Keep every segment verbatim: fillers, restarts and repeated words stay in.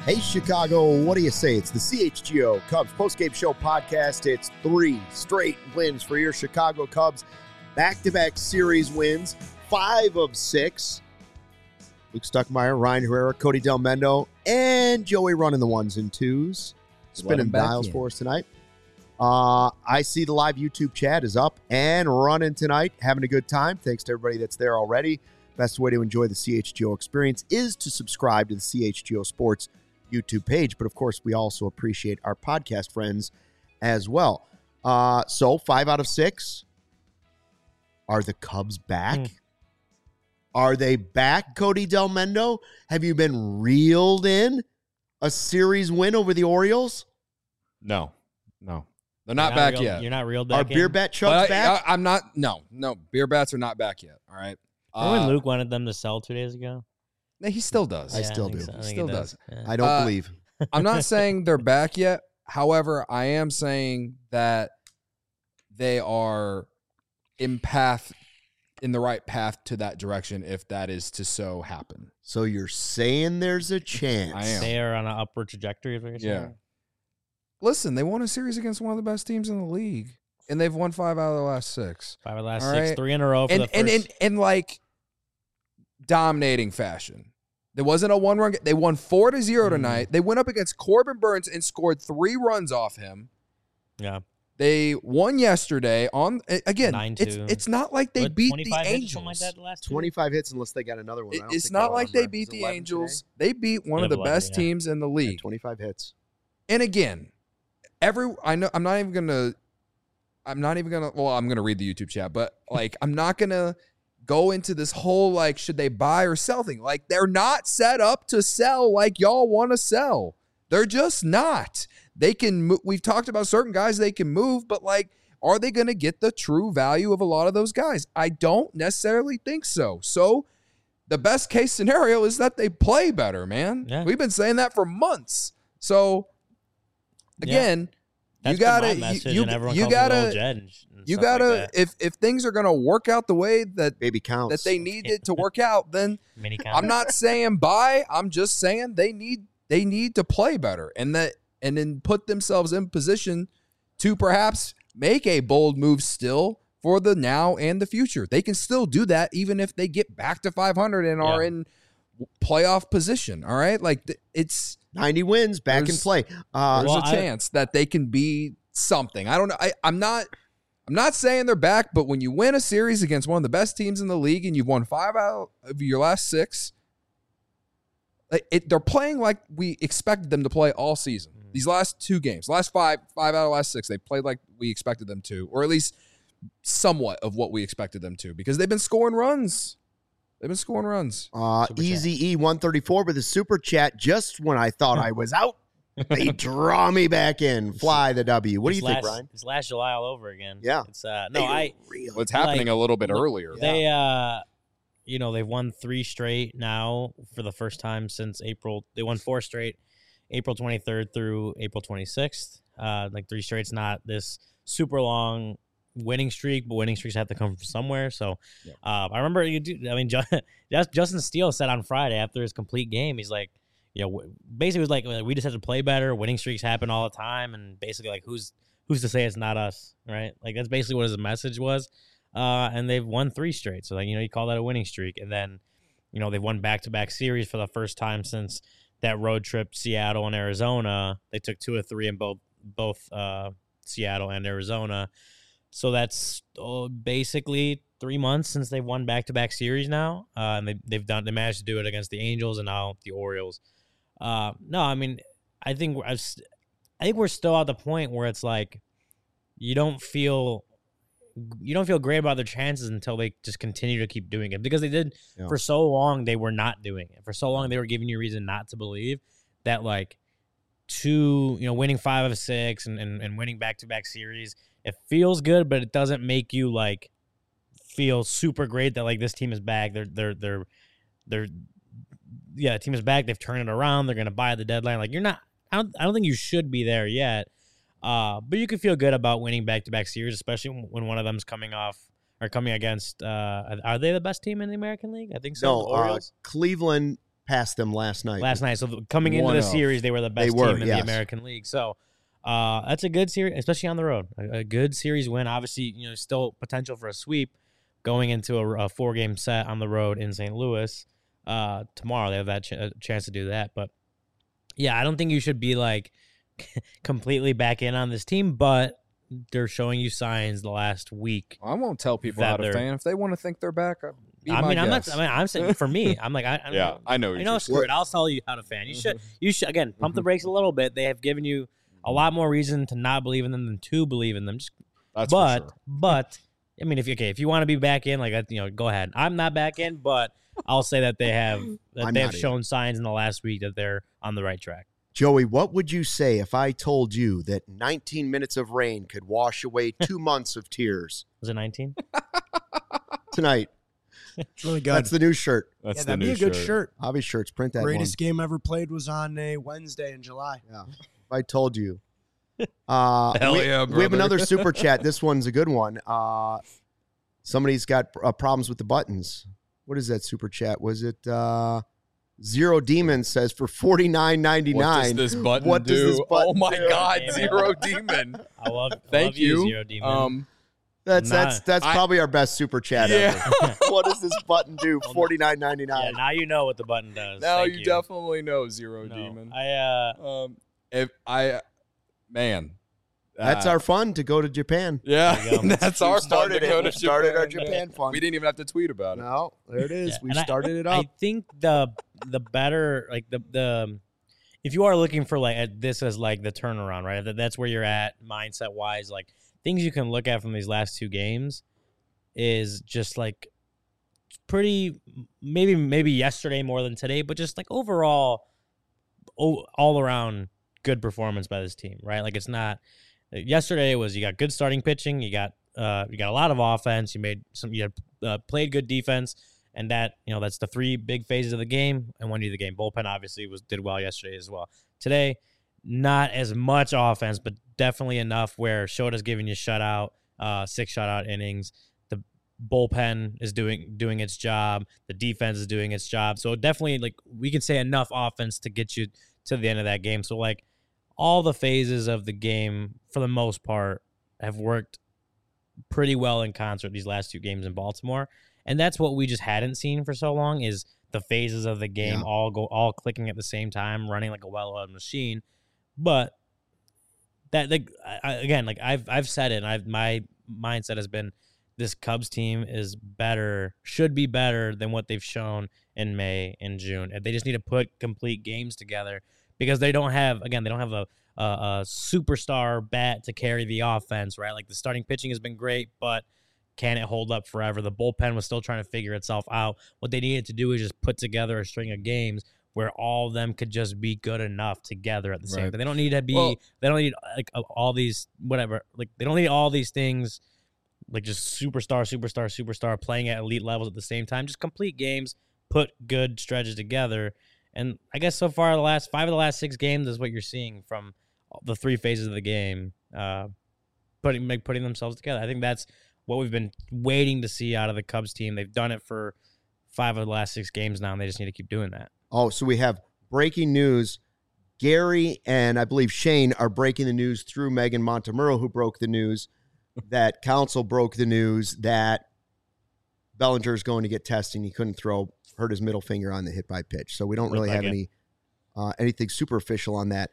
Hey, Chicago, what do you say? It's the C H G O Cubs postgame show podcast. It's three straight wins for your Chicago Cubs. Back-to-back series wins, five of six. Luke Stuckmeyer, Ryan Herrera, Cody Del Mendo, and Joey running the ones and twos. Spinning dials for us tonight. Uh, I see the live YouTube chat is up and running tonight. Having a good time. Thanks to everybody that's there already. Best way to enjoy the C H G O experience is to subscribe to the C H G O Sports YouTube page. But, of course, we also appreciate our podcast friends as well. Uh, so, five out of six. Are the Cubs back? Mm. Are they back, Cody Del Mendo? Have you been reeled in a series win over the Orioles? No, no. They're not, not back real, yet. You're not reeled back Are in? beer bat chugs I, back? I, I'm not. No, no. Beer bats are not back yet. All right. Remember Uh, when Luke wanted them to sell two days ago? He still does. I Yeah, still think do. so. I He think still he does. Yeah. I don't Uh, believe. I'm not saying they're back yet. However, I am saying that they are in path, in the right path to that direction, if that is to so happen. So you're saying there's a chance. I am. They are on an upward trajectory, is what you're Yeah. saying? Listen, they won a series against one of the best teams in the league, and they've won five out of the last six. Five of the last All six, right. three in a row for And the first. and in and like dominating fashion. There wasn't a one-run. They won four to zero tonight. They went up against Corbin Burns and scored three runs off him. yeah. They won yesterday on again. nine It's two. it's not like they What, beat the twenty-five hits or Angels. something like that the last two? twenty-five hits unless they got another one. I It- don't it's think not they'll like they remember. beat Is it the eleven Angels. today? They beat one of They the have eleven, best yeah. teams in the Yeah, league. twenty-five hits. And again, every I know I'm not even gonna. I'm not even gonna. Well, I'm gonna read the YouTube chat, but like I'm not gonna go into this whole like should they buy or sell thing. Like they're not set up to sell like y'all want to sell. They're just not. They can. Mo- We've talked about certain guys they can move, but like, are they going to get the true value of a lot of those guys? I don't necessarily think so. So, the best case scenario is that they play better, man. Yeah. We've been saying that for months. So, again. That's you gotta, been my message, you, and everyone you calls me gotta, Old Jed and, sh- and you stuff like gotta. that. if if things are gonna work out the way that Baby counts. that they need it to work out, then Mini I'm not saying buy. I'm just saying they need they need to play better, and that and then put themselves in position to perhaps make a bold move still for the now and the future. They can still do that even if they get back to five hundred and are Yeah. in playoff position. All right, like th- it's. ninety wins, back in There's- play. Uh, There's Well, a I- chance that they can be something. I don't know. I, I'm not. I'm not saying they're back, but when you win a series against one of the best teams in the league and you've won five out of your last six, like, it, they're playing like we expected them to play all season. Mm-hmm. These last two games, last five, five out of the last six, they played like we expected them to, or at least somewhat of what we expected them to, because they've been scoring runs. They've been scoring runs. uh, Super chat. Easy E one thirty-four with a super chat just when I thought I was out. They draw me back in. Fly the W. What do It's you think, last, Ryan? It's last July all over again. Yeah. It's uh no, They I real. What's happening like, a little bit look, earlier? they uh you know, they've won three straight now for the first time since April. They won four straight, April twenty-third through April twenty-sixth. Uh like three straight's not this super long winning streak, but winning streaks have to come from somewhere. So Yeah. uh, I remember you do I mean Ju- Justin Steele said on Friday after his complete game, he's like, you know, basically it was like we just have to play better. Winning streaks happen all the time, and basically like who's who's to say it's not us, right? Like that's basically what his message was. Uh, and they've won three straight, so like you know you call that a winning streak. And then you know they've won back to back series for the first time since that road trip Seattle and Arizona. They took two or three in both both uh, Seattle and Arizona. So that's uh, basically three months since they've won back to back series now, uh, and they they've done they managed to do it against the Angels and now the Orioles. Uh, no, I mean, I think we're, I think we're still at the point where it's like you don't feel you don't feel great about their chances until they just continue to keep doing it, because they did Yeah. for so long. They were not doing it for so long. They were giving you a reason not to believe that, like, two, you know, winning five of six and, and, and winning back to back series. It feels good, but it doesn't make you like feel super great that like this team is back. They're they're they're they're yeah, the team is back. They've turned it around. They're gonna buy at the deadline. Like you're not. I don't. I don't think you should be there yet. Uh, but you can feel good about winning back to back series, especially when one of them's coming off or coming against. Uh, are they the best team in the American League? I think so. No, the uh, Orioles. Cleveland past them last night. last night. So th- coming into One the of. series, they were the best They were, team in yes. the American League. So uh, that's a good series, especially on the road. A, a good series win. Obviously, you know, still potential for a sweep going into a, a four-game set on the road in Saint Louis. Uh, tomorrow they have that ch- a chance to do that. But, yeah, I don't think you should be, like, completely back in on this team, but they're showing you signs the last week. I won't tell people That how to they're- fan. If they want to think they're back, I'll be I my mean, I'm guess. not. I mean, I'm saying for me, I'm like, I, I Yeah, I know. You what know, you're screw it. I'll tell you how to fan. You should, you should again pump the brakes a little bit. They have given you a lot more reason to not believe in them than to believe in them. Just, That's but, for sure. but, I mean, if you okay, if you want to be back in, like, you know, go ahead. I'm not back in, but I'll say that they have that I'm they not have shown signs in the last week that they're on the right track. Joey, what would you say if I told you that nineteen minutes of rain could wash away two months of tears? Was it nineteen? Tonight. It's really good. That's the new shirt. That's yeah, the that'd new be a good shirt. shirt. Hobby shirts, print that Greatest game ever played was on a Wednesday in July. one. Yeah. If I told you. Uh, Hell we, yeah, we have brother. another super chat. This one's a good one. Uh, somebody's got uh, problems with the buttons. What is that super chat? Was it uh, Zero Demon says for forty-nine ninety-nine? What does this button What do? does this button oh my do? God, Damn. Zero Demon. I love. Thank love you. Zero Demon. Um, That's Nah. that's that's I- probably our best super chat yeah. ever. What does this button do? forty-nine yeah, ninety-nine. now you know what the button does. now Thank you, you definitely know Zero No, Demon. I uh. Um, if I, man, That's uh, our fun to go to Japan. Yeah, There you go. that's our We started fun to it. go We to started our Japan. Japan fun. We didn't even have to tweet about it. No, there it is. Yeah, We and I- started it I up. think the the better like the the if you are looking for like at this as like the turnaround, right? That that's where you're at mindset wise. Like things you can look at from these last two games is just like pretty maybe maybe yesterday more than today, but just like overall, oh, all around good performance by this team, right? Like it's not. Yesterday was you got good starting pitching, you got uh you got a lot of offense, you made some you had, uh, played good defense. And that, you know, that's the three big phases of the game and one of the game. Bullpen obviously was did well yesterday as well. Today, not as much offense, but definitely enough where Shota's giving you shutout, uh, six shutout innings. The bullpen is doing doing its job. The defense is doing its job. So definitely, like, we can say enough offense to get you to the end of that game. So, like, all the phases of the game, for the most part, have worked pretty well in concert these last two games in Baltimore. And that's what we just hadn't seen for so long is the phases of the game Yeah. all go all clicking at the same time, running like a well-oiled machine. But that like I, I- again, like I've I've said it, and I've my mindset has been this Cubs team is better, should be better than what they've shown in May and June. And they just need to put complete games together because they don't have again they don't have a a, a superstar bat to carry the offense, right? Like the starting pitching has been great, but can it hold up forever? The bullpen was still trying to figure itself out. What they needed to do is just put together a string of games where all of them could just be good enough together at the same Right. time. They don't need to be. Well- they don't need like all these whatever. Like they don't need all these things. Like just superstar, superstar, superstar playing at elite levels at the same time. Just complete games, put good stretches together. And I guess so far the last five of the last six games is what you're seeing from the three phases of the game, uh, putting like, putting themselves together. I think that's what we've been waiting to see out of the Cubs team. They've done it for five of the last six games now, and they just need to keep doing that. Oh, so we have breaking news. Gary and I believe Shane are breaking the news through Megan Montemurro, who broke the news that Council broke the news that Bellinger is going to get testing. He couldn't throw, hurt his middle finger on the hit by pitch. So we don't Looked really like have it. any uh, anything super official on that.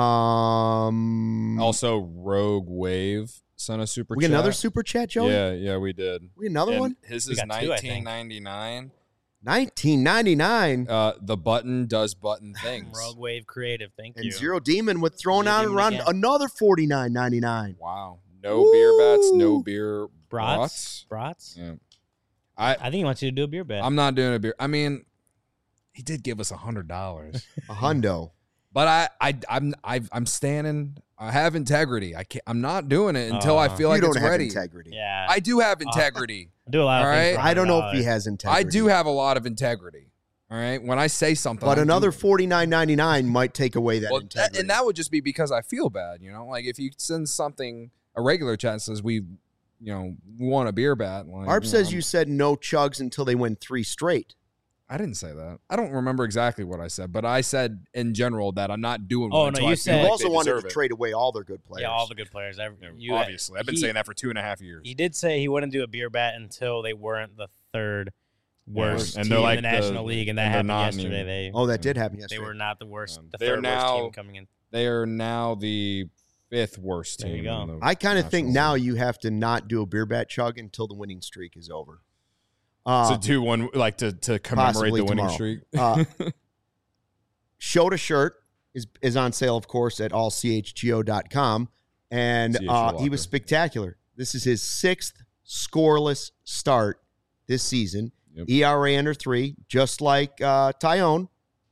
Um, Also, Rogue Wave sent a super we got chat. another super chat, Joey. Yeah, yeah, we did. We got another And one. His We is got two, I think. nineteen ninety-nine. nineteen ninety-nine. Uh, the button does button things. Rogue Wave Creative, thank And you. Zero Demon with throwing Zero out Demon around again. another forty-nine ninety-nine. Wow. No beer bats, no Woo! beer Brats? brats. Brats? Yeah. I I think he wants you to do a beer bet. I'm not doing a beer. I mean, he did give us a hundred dollars, A hundo. but I I I'm I've, I'm standing. I have integrity. I can't. I'm not doing it until I Uh, feel like you don't it's have ready. integrity. yeah. I do have integrity. I do a lot of all things. right. for I don't know if one hundred he dollars. has integrity. I do have a lot of integrity. All right. When I say something, But I another do. forty-nine ninety-nine might take away that Well, integrity. that, and that would just be because I feel bad. You know, like if you send something a regular chat and says we, you know, we want a beer bat. Like, Arp you says know, you said no chugs until they win three straight. I didn't say that. I don't remember exactly what I said, but I said in general that I'm not doing. Oh, one no, until you I said- feel You like also they wanted deserve to it. trade away all their good players. Yeah, all the good players. Every, Yeah, you, obviously, I've been he- saying that for two and a half years. He did say he wouldn't do a beer bat until they weren't the third worst and team they're in like the the- National League, and that and they're happened not yesterday. anymore. They Oh, that did happen they yesterday. were not the worst, Um, the they're third worst now- team coming in. They are now the fifth worst There team. you go. in the I kind of think National now League. you have to not do a beer bat chug until the winning streak is over. Uh, to do one like to to commemorate possibly the winning tomorrow. streak. Uh, Shota shirt is is on sale, of course, at all c h g o dot com, and C H G O uh, he locker. was spectacular. This is his sixth scoreless start this season. Yep. E R A under three, just like uh, Tyone.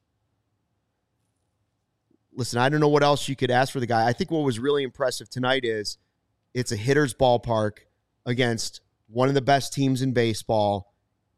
Listen, I don't know what else you could ask for the guy. I think what was really impressive tonight is it's a hitter's ballpark against one of the best teams in baseball,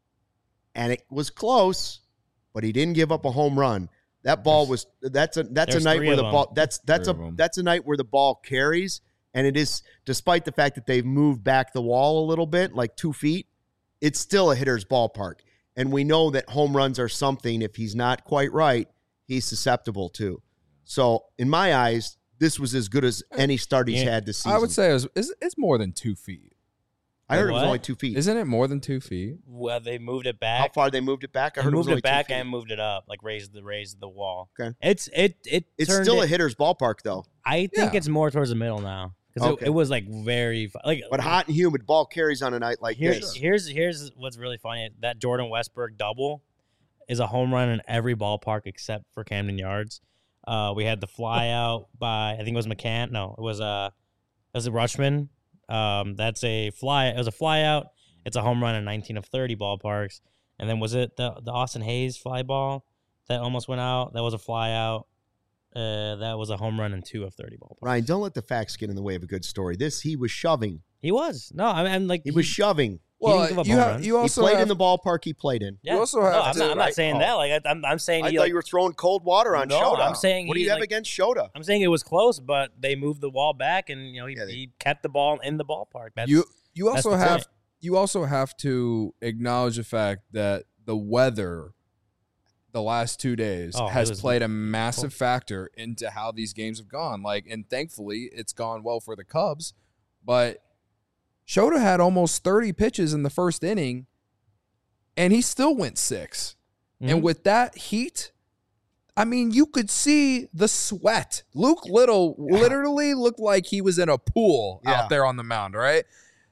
and it was close, but he didn't give up a home run. That ball was that's a that's a There's night three where of the them. ball that's that's Three a of them. that's a night where the ball carries, and it is despite the fact that they've moved back the wall a little bit, like two feet, it's still a hitter's ballpark. And we know that home runs are something, if he's not quite right, he's susceptible to. So in my eyes, this was as good as any start he's Yeah. had this season. I would say it was, it's, it's more than two feet. I heard it was What? only two feet. Isn't it more than two feet? Well, they moved it How back. far they moved it back? I They heard moved it was only it back two feet. and moved it up, like raised the raised the wall. Okay. It's it it. It's turned still it, a hitter's ballpark, though. I think Yeah. it's more towards the middle now because Okay. it, it was like very fu- like But hot and humid, ball carries on a night like Here's this. here's here's what's really funny. That Jordan Westberg double is a home run in every ballpark except for Camden Yards. Uh, we had the fly out by I think it was McCann. No, it was uh it was a Rushman. Um, that's a fly. It was a fly out. It's a home run in nineteen of thirty ballparks. And then was it the the Austin Hayes fly ball that almost went out? That was a fly out. Uh, that was a home run in two of thirty ballparks. Ryan, don't let the facts get in the way of a good story. This, he was shoving. He was no, I mean I'm like He was shoving. Well, give up you home have runs. you He also played have, in the ballpark he played in. Yeah. also no, have I'm to- not, I'm not right? saying Oh. that. Like I, I'm, I'm saying I he thought like, you were throwing cold water on No, Shota. I'm saying what do he, you have like- against Shota? I'm saying it was close, but they moved the wall back, and you know he, Yeah, they- he kept the ball in the ballpark. That's, you you that's also the have point. you also have to acknowledge the fact that the weather the last two days Oh, it has was- played a massive factor into how these games have gone. Like, and thankfully it's gone well for the Cubs, but Shota had almost thirty pitches in the first inning and he still went six. Mhm. And with that heat, I mean, you could see the sweat. Luke Little literally looked like he was in a pool Yeah. out there on the mound, right?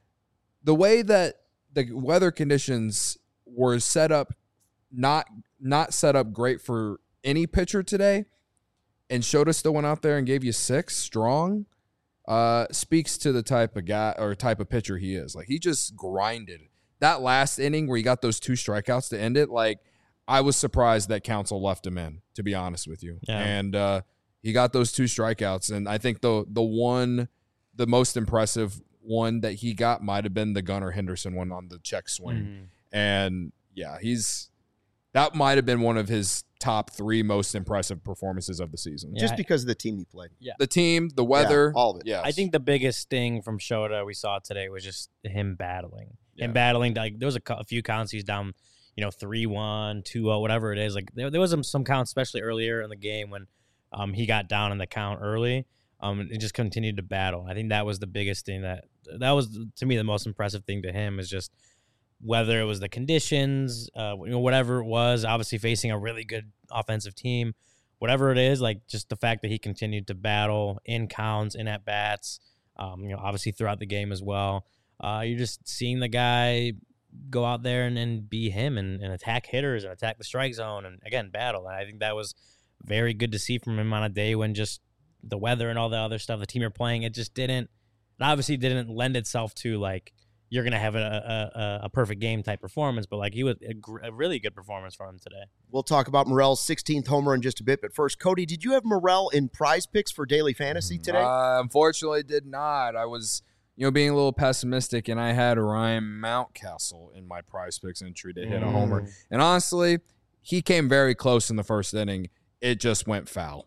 The way that the weather conditions were set up, not not set up great for any pitcher today, and Shota still went out there and gave you six strong, uh, speaks to the type of guy or type of pitcher he is. Like, he just grinded. That last inning where he got those two strikeouts to end it, like, I was surprised that Counsell left him in, to be honest with you. Yeah. And uh, he got those two strikeouts, and I think the the one, the most impressive one that he got might have been the Gunnar Henderson one on the check swing. Mhm. And yeah, he's that might have been one of his top three most impressive performances of the season. Yeah, Just I- because of the team he played. The team, the weather, Yeah, all of it. Yes. I think the biggest thing from Shota we saw today was just him battling. Yeah. Him battling. Like there was a, cou- a few counts he's down, you know, three one, two oh, whatever it is. Like there, there was some, some counts, especially earlier in the game when um, he got down in the count early. Um, and just continued to battle. I think that was the biggest thing that that was to me the most impressive thing to him is just whether it was the conditions, uh, you know, whatever it was. Obviously facing a really good offensive team, whatever it is, like just the fact that he continued to battle in counts, in at bats, um, you know, obviously throughout the game as well. Uh, you're just seeing the guy go out there and, and be him and, and attack hitters and attack the strike zone and again battle. And I think that was very good to see from him on a day when just the weather and all the other stuff, the team you're playing, it just didn't, it obviously didn't lend itself to like you're gonna have a a, a perfect game type performance. But like he was a, gr- a really good performance from him today. We'll talk about Morel's sixteenth homer in just a bit. But first, Cody, did you have Morel in prize picks for daily fantasy today? Uh, unfortunately, did not. I was, you know, being a little pessimistic, and I had Ryan Mountcastle in my prize picks entry to hit a homer. And honestly, he came very close in the first inning. It just went foul.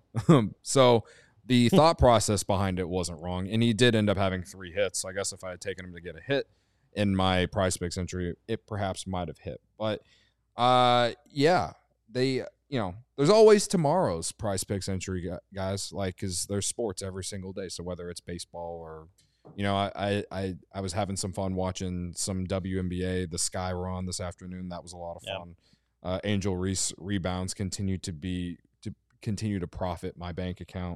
So the thought process behind it wasn't wrong, and he did end up having three hits. I guess if I had taken him to get a hit in my prize picks entry, it perhaps might have hit. But Uh, yeah, they, you know, there's always tomorrow's Prize Picks entry, guys. Like, because there's sports every single day. So whether it's baseball or, you know, I I I was having some fun watching some W N B A, the Sky Run this afternoon. That was a lot of Yep. fun. Uh, Angel Reese rebounds continue to be to continue to profit my bank account.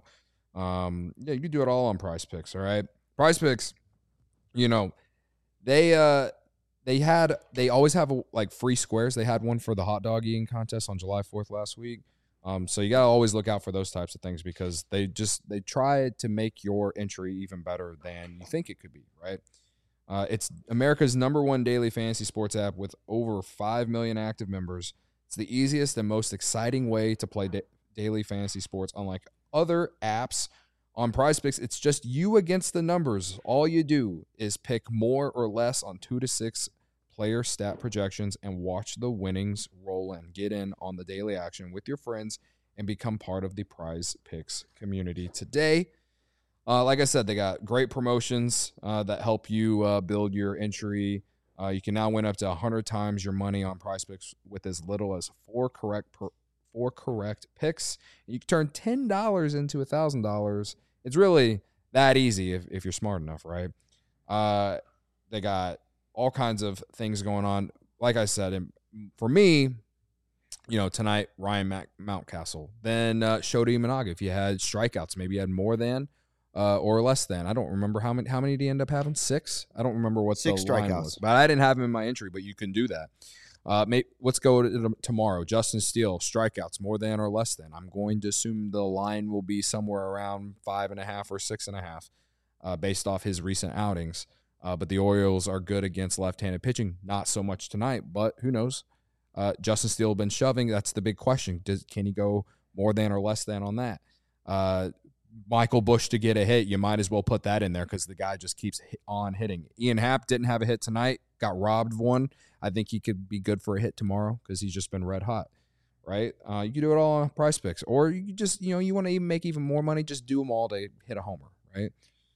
Um, yeah, you can do it all on Prize Picks. All right, Prize Picks. You know, they uh. They had, they always have a, like free squares. They had one for the hot dog eating contest on July fourth last week. Um, so you got to always look out for those types of things because they just, they try to make your entry even better than you think it could be, right? Uh, it's America's number one daily fantasy sports app with over five million active members. It's the easiest and most exciting way to play da- daily fantasy sports, unlike other apps. On Prize Picks, it's just you against the numbers. All you do is pick more or less on two to six player stat projections and watch the winnings roll in. Get in on the daily action with your friends and become part of the Prize Picks community today. Uh, like I said, they got great promotions uh, that help you uh, build your entry. Uh, you can now win up to one hundred times your money on Prize Picks with as little as four correct per, four correct picks. You can turn ten dollars into one thousand dollars. It's really that easy if, if you're smart enough, right? Uh, they got all kinds of things going on. Like I said, and for me, you know, tonight, Ryan Mac- Mountcastle. Then uh, Shota Imanaga. If you had strikeouts, maybe you had more than uh, or less than. I don't remember how many. How many did he end up having? Six. I don't remember what Six the line strikeouts. was, but I didn't have him in my entry. But you can do that. Uh, may, let's go to tomorrow. Justin Steele, strikeouts, more than or less than. I'm going to assume the line will be somewhere around five and a half or six and a half, uh, based off his recent outings. Uh, but the Orioles are good against left-handed pitching. Not so much tonight, but who knows? Uh, Justin Steele been shoving. That's the big question. Does, can he go more than or less than on that? Uh, Michael Busch to get a hit, you might as well put that in there because the guy just keeps hit on hitting. Ian Happ didn't have a hit tonight, got robbed of one. I think he could be good for a hit tomorrow because he's just been red hot, right? Uh, you can do it all on Prize Picks. Or you just, you know, you want to even make even more money, just do them all to hit a homer, right?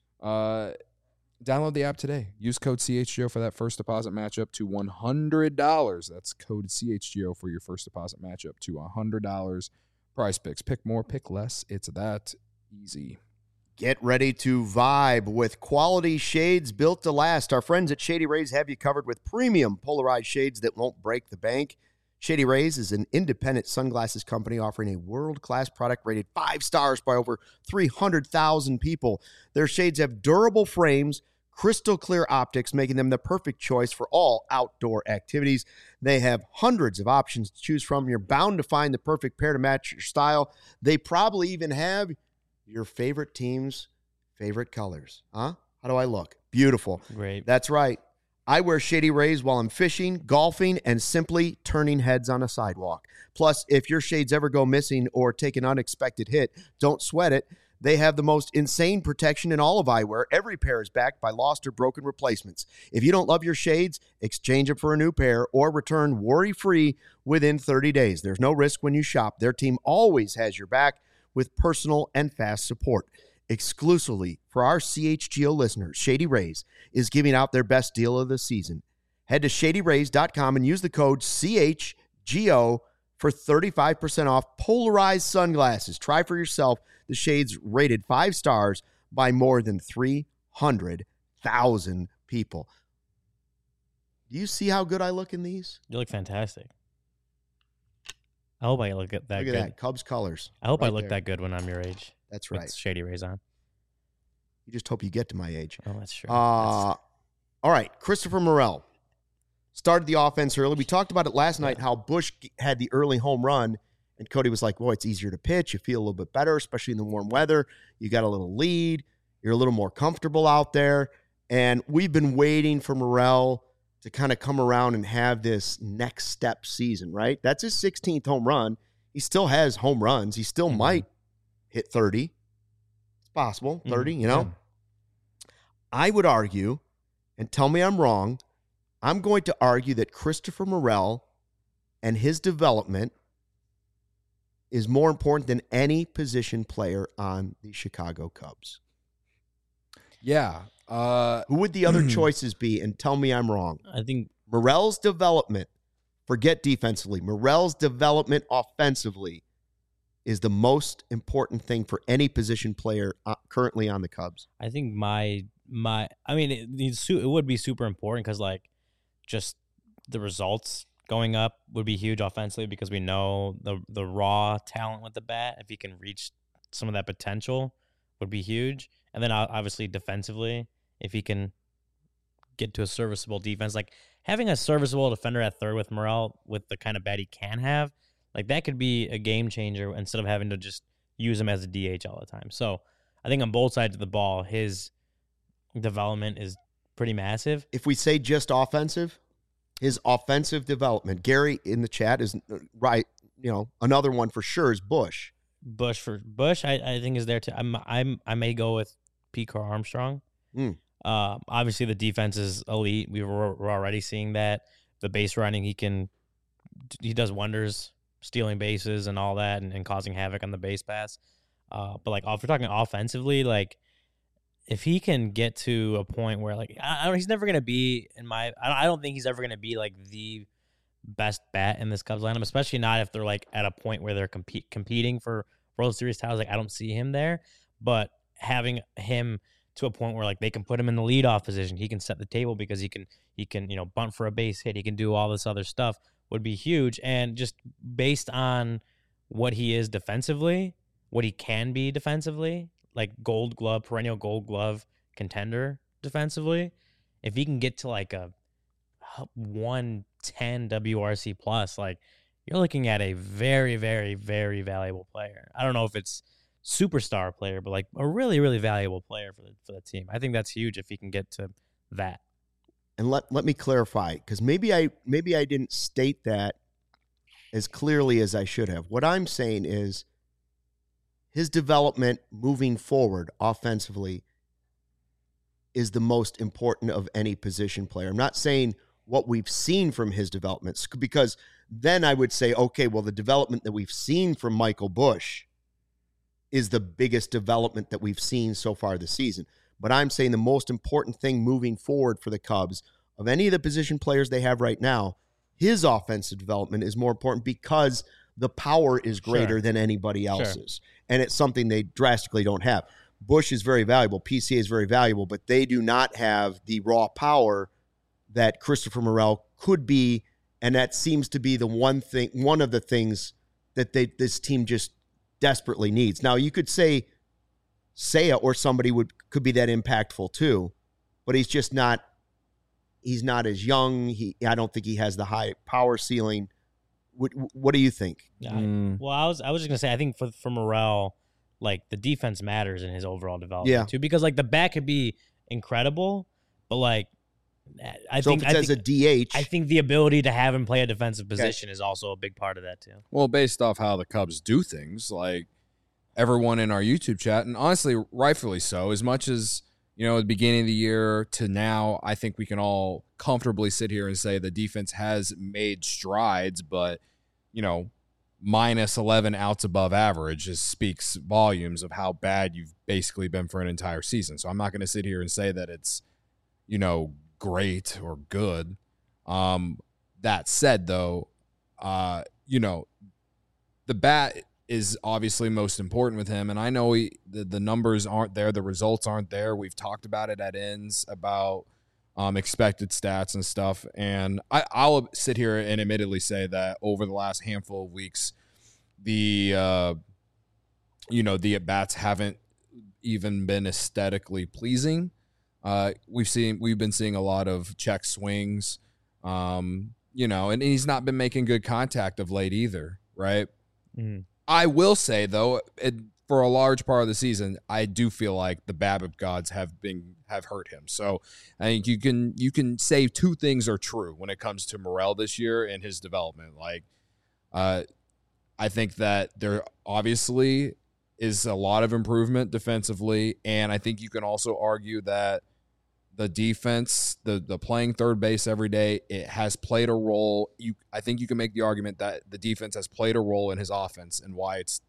Uh, download the app today. Use code C H G O for that first deposit matchup to one hundred dollars. That's code C H G O for your first deposit matchup to one hundred dollars. Prize Picks. Pick more, pick less. It's that easy. Get ready to vibe with quality shades built to last. Our friends at Shady Rays have you covered with premium polarized shades that won't break the bank. Shady Rays is an independent sunglasses company offering a world-class product rated five stars by over three hundred thousand people. Their shades have durable frames, crystal clear optics, making them the perfect choice for all outdoor activities. They have hundreds of options to choose from. You're bound to find the perfect pair to match your style. They probably even have your favorite team's favorite colors. Huh? How do I look? Beautiful. Great. That's right. I wear Shady Rays while I'm fishing, golfing, and simply turning heads on a sidewalk. Plus, if your shades ever go missing or take an unexpected hit, don't sweat it. They have the most insane protection in all of eyewear. Every pair is backed by lost or broken replacements. If you don't love your shades, exchange them for a new pair or return worry-free within thirty days. There's no risk when you shop. Their team always has your back with personal and fast support. Exclusively for our C H G O listeners, Shady Rays is giving out their best deal of the season. Head to shady rays dot com and use the code C H G O for thirty-five percent off polarized sunglasses. Try for yourself the shades rated five stars by more than three hundred thousand people. Do you see how good I look in these? You look fantastic. I hope I look at that Look at good. that. Cubs colors. I hope I right look there. that good when I'm your age. That's With right. Shady Rays on. You just hope you get to my age. Oh, that's true. Uh, all right, Christopher Morel started the offense early. We talked about it last night, how Busch had the early home run, and Cody was like, boy, it's easier to pitch. You feel a little bit better, especially in the warm weather. You got a little lead. You're a little more comfortable out there. And we've been waiting for Morel to kind of come around and have this next step season, right? That's his sixteenth home run. He still has home runs. He still Mhm. might hit thirty. It's possible, thirty, Mhm. you know? Yeah. I would argue, and tell me I'm wrong, I'm going to argue that Christopher Morel and his development is more important than any position player on the Chicago Cubs. Yeah. Uh, Who would the other choices be? And tell me I'm wrong. I think Morel's development Forget defensively. Morel's development offensively is the most important thing for any position player uh, currently on the Cubs. I think my my I mean it, it's su- it would be super important because like just the results going up would be huge offensively because we know the the raw talent with the bat, if he can reach some of that potential, would be huge. And then obviously defensively, if he can get to a serviceable defense, like having a serviceable defender at third with Morel with the kind of bat he can have, like that could be a game changer instead of having to just use him as a D H all the time. So I think on both sides of the ball, his development is pretty massive. If we say just offensive, his offensive development, Gary in the chat is right. You know, another one for sure is Bush. Bush for Bush, I, I think is there too. I'm I'm I may go with Pete Crow Armstrong. Mm. Uh, obviously the defense is elite. We were, we're already seeing that. The base running, he can he does wonders, stealing bases and all that, and, and causing havoc on the base pass. Uh, but like if we're talking offensively, like if he can get to a point where like I, I don't, he's never gonna be in my I don't, I don't think he's ever gonna be like the best bat in this Cubs lineup, especially not if they're like at a point where they're compete, competing for World Series titles. Like I don't see him there, but having him to a point where like they can put him in the leadoff position, he can set the table because he can he can you know bunt for a base hit, he can do all this other stuff, would be huge. And just based on what he is defensively, what he can be defensively, like Gold Glove, perennial Gold Glove contender defensively, if he can get to like a one ten W R C plus, like you're looking at a very, very, very valuable player. I don't know if it's superstar player, but like a really, really valuable player for the for the team. I think that's huge if he can get to that. And let let me clarify, because maybe I maybe I didn't state that as clearly as I should have. What I'm saying is his development moving forward offensively is the most important of any position player. I'm not saying what we've seen from his developments, because then I would say, okay, well, the development that we've seen from Michael Bush is the biggest development that we've seen so far this season. But I'm saying the most important thing moving forward for the Cubs, of any of the position players they have right now, his offensive development is more important because the power is greater Sure. than anybody else's. Sure. And it's something they drastically don't have. Bush is very valuable. P C A is very valuable, but they do not have the raw power that Christopher Morel could be. And that seems to be the one thing, one of the things that they this team just desperately needs. Now, you could say Seiya or somebody would could be that impactful too, but he's just not. He's not as young. He, I don't think he has the high power ceiling. What, what do you think? Yeah. Mm. Well, I was I was just gonna say I think for for Morel, like the defense matters in his overall development Yeah. too, because like the bat could be incredible, but like I So think if it's I as think, a D H, I think the ability to have him play a defensive position is also a big part of that too. Well, based off how the Cubs do things, like everyone in our YouTube chat, and honestly, rightfully so, as much as, you know, at the beginning of the year to now, I think we can all comfortably sit here and say the defense has made strides, but, you know, minus eleven outs above average just speaks volumes of how bad you've basically been for an entire season. So I'm not going to sit here and say that it's, you know, great or good. Um, that said, though, uh, you know, the bat is obviously most important with him, and I know he, the, the numbers aren't there, the results aren't there. We've talked about it at ends about um, expected stats and stuff, and I, I'll sit here and admittedly say that over the last handful of weeks, the uh, you know the at-bats haven't even been aesthetically pleasing. Uh, we've seen we've been seeing a lot of check swings, um, you know, and he's not been making good contact of late either, right? Mm-hmm. I will say though, it, for a large part of the season, I do feel like the BABIP gods have been have hurt him. So I think you can you can say two things are true when it comes to Morel this year and his development. Like, uh, I think that there obviously is a lot of improvement defensively, and I think you can also argue that the defense, the the playing third base every day, it has played a role. You, I think you can make the argument that the defense has played a role in his offense and why it's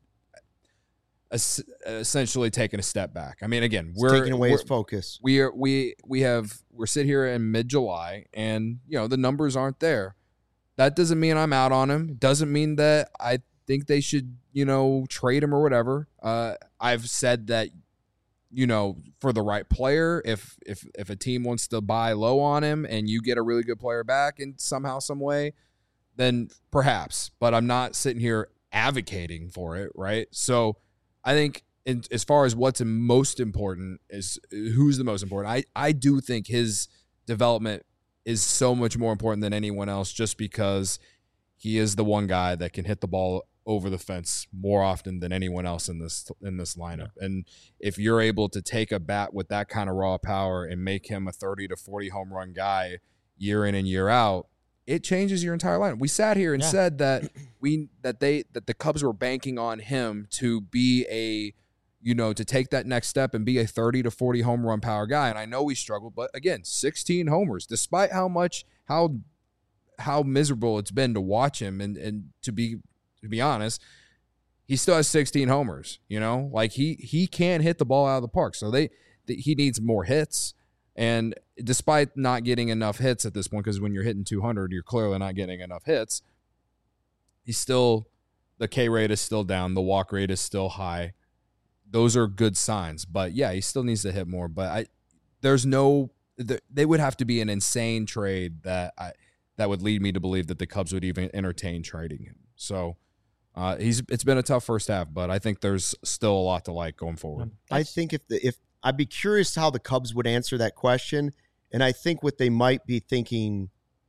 es- essentially taken a step back. I mean, again, it's we're taking away we're, his focus. We are we we have we're sit here in mid July, and you know the numbers aren't there, That doesn't mean I'm out on him. Doesn't mean that I think they should, you know, trade him or whatever. Uh, I've said that, you know, for the right player, if if if a team wants to buy low on him and you get a really good player back in somehow, some way, then perhaps. But I'm not sitting here advocating for it, right? So I think in, as far as what's most important is who's the most important. I, I do think his development is so much more important than anyone else just because he is the one guy that can hit the ball over the fence more often than anyone else in this in this lineup. Yeah. And if you're able to take a bat with that kind of raw power and make him a thirty to forty home run guy year in and year out, it changes your entire lineup. We sat here and yeah. said that we that they that the Cubs were banking on him to be a, you know, to take that next step and be a thirty to forty home run power guy. And I know we struggled, but again, sixteen homers, despite how much how how miserable it's been to watch him and and to be to be honest, he still has sixteen homers, you know? Like he he can hit the ball out of the park. So they, they he needs more hits. And despite not getting enough hits at this point, because when you're hitting two hundred, you're clearly not getting enough hits, he's still, the K rate is still down. The walk rate is still high. Those are good signs. But, yeah, he still needs to hit more. But I, there's no – they would have to be an insane trade that I that would lead me to believe that the Cubs would even entertain trading him. So uh, he's it's been a tough first half, but I think there's still a lot to like going forward. I think if the if – I'd be curious how the Cubs would answer that question, and I think what they might be thinking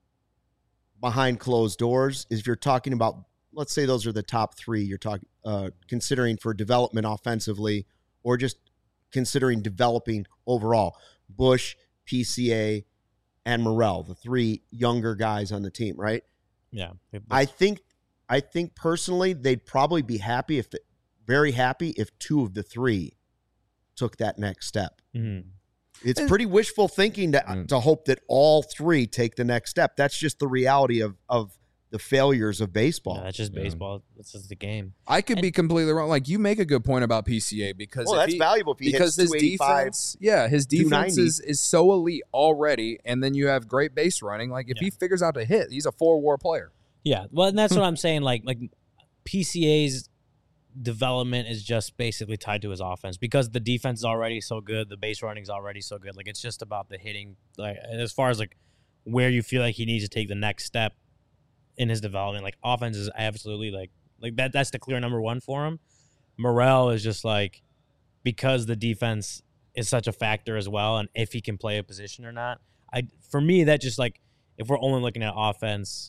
behind closed doors is if you're talking about, let's say those are the top three you're talking uh, considering for development offensively or just considering developing overall. Bush, P C A, and Morel, the three younger guys on the team, right? Yeah. I think I think personally they'd probably be happy if the, very happy if two of the three took that next step. Mm-hmm. It's pretty wishful thinking to mm. to hope that all three take the next step. That's just the reality of of the failures of baseball. Yeah, that's just baseball. Yeah. That's just the game. I could and, be completely wrong. Like you make a good point about P C A because well, if that's he, valuable if he because hits his defense, yeah, his defense is, is so elite already, and then you have great base running. Like if yeah. he figures out to hit, he's a four WAR player. Yeah, well, and that's what I'm saying. Like like P C A's development is just basically tied to his offense because the defense is already so good, the base running is already so good. Like it's just about the hitting. Like as far as like where you feel like he needs to take the next step in his development, like offense is absolutely like like that. That's the clear number one for him. Morel is just like because the defense is such a factor as well, and if he can play a position or not. I for me that just like if we're only looking at offense.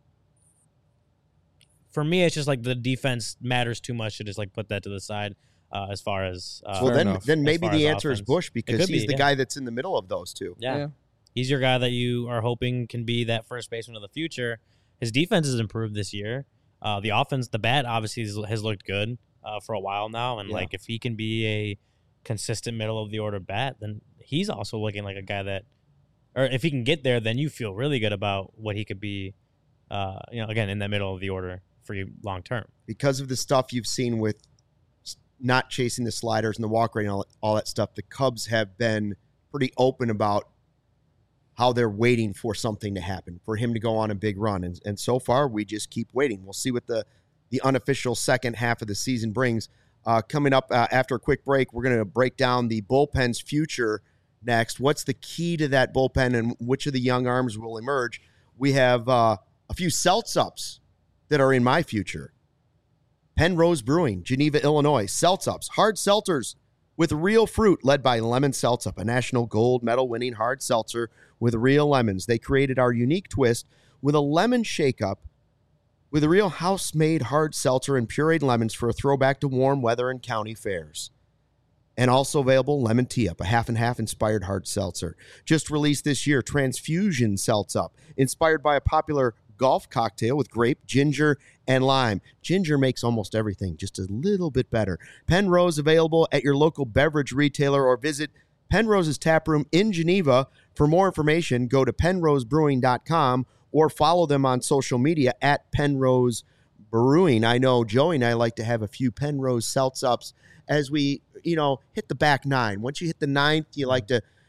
For me, it's just like the defense matters too much to just like put that to the side uh, as far as. Uh, well, then enough. then maybe the answer offense. is Bush because he's be, the yeah. guy that's in the middle of those two. Yeah. yeah. He's your guy that you are hoping can be that first baseman of the future. His defense has improved this year. Uh, the offense, the bat obviously has looked good uh, for a while now. And yeah. like if he can be a consistent middle of the order bat, then he's also looking like a guy that, or if he can get there, then you feel really good about what he could be, uh, you know, again, in that middle of the order for you long term. Because of the stuff you've seen with not chasing the sliders and the walk rate and all, all that stuff, the Cubs have been pretty open about how they're waiting for something to happen, for him to go on a big run. And, and so far, we just keep waiting. We'll see what the, the unofficial second half of the season brings. Uh, coming up uh, after a quick break, we're going to break down the bullpen's future next. What's the key to that bullpen and which of the young arms will emerge? We have uh, a few Seltz-ups that are in my future. Penrose Brewing, Geneva, Illinois. Seltz-ups, hard seltzers with real fruit, led by Lemon Seltz-up, a national gold medal-winning hard seltzer with real lemons. They created our unique twist with a lemon shake-up with a real house-made hard seltzer and pureed lemons for a throwback to warm weather and county fairs. And also available Lemon Tea-Up, a half-and-half inspired hard seltzer. Just released this year, Transfusion Seltz-Up, inspired by a popular golf cocktail with grape, ginger, and lime. Ginger makes almost everything just a little bit better. Penrose available at your local beverage retailer or visit Penrose's taproom in Geneva. For more information, go to penrose brewing dot com or follow them on social media at Penrose Brewing. I know Joey and I like to have a few Penrose Seltz-ups as we, you know, hit the back nine. Once you hit the ninth, you like to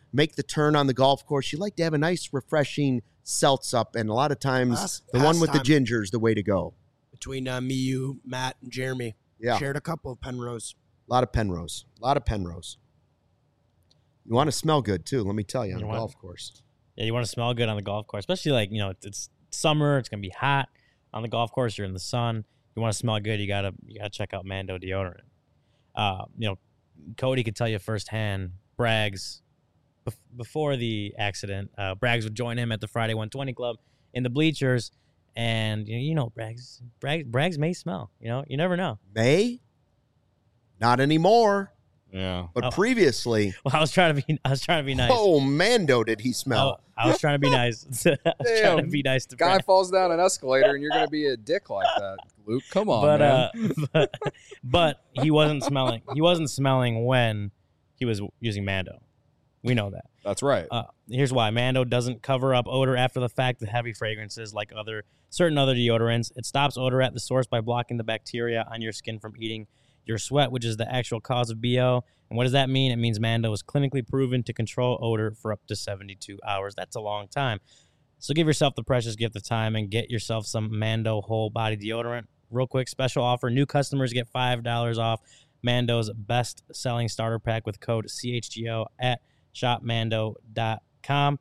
make the turn on the golf course, you like to have a nice, refreshing seltz up, and a lot of times Last- the one with the pastime. ginger is the way to go. Between uh, me, you, Matt, and Jeremy. Yeah, Shared a couple of Penrose. a lot of Penrose. A lot of Penrose. You want to smell good, too, let me tell you, on You a want- golf course. Yeah, you want to smell good on the golf course, especially like, you know, it's, it's summer, it's going to be hot on the golf course, you're in the sun. You want to smell good, you got to you got to check out Mando deodorant. Uh, you know, Cody could tell you firsthand, Braggs bef- before the accident, uh, Braggs would join him at the Friday one twenty Club in the bleachers, and you know, you know Braggs, Braggs Braggs may smell, you know, you never know. May? Not anymore, Yeah. but Oh. previously. Well, I was trying to be I was trying to be nice. Oh, Mando, did he I, smell? I was trying to be nice. I was trying to Damn. be nice to Guy Braggs. falls down an escalator and you're gonna be a dick like that, Luke. Come on, but man. uh but, but he wasn't smelling he wasn't smelling when he was using Mando. We know that. That's right. Uh, here's why. Mando doesn't cover up odor after the fact with heavy fragrances like other certain other deodorants. It stops odor at the source by blocking the bacteria on your skin from eating your sweat, which is the actual cause of B O. And what does that mean? It means Mando is clinically proven to control odor for up to seventy-two hours. That's a long time. So give yourself the precious gift of time and get yourself some Mando whole body deodorant. Real quick, special offer. New customers get five dollars off Mando's best-selling starter pack with code C H G O at shop mando dot com.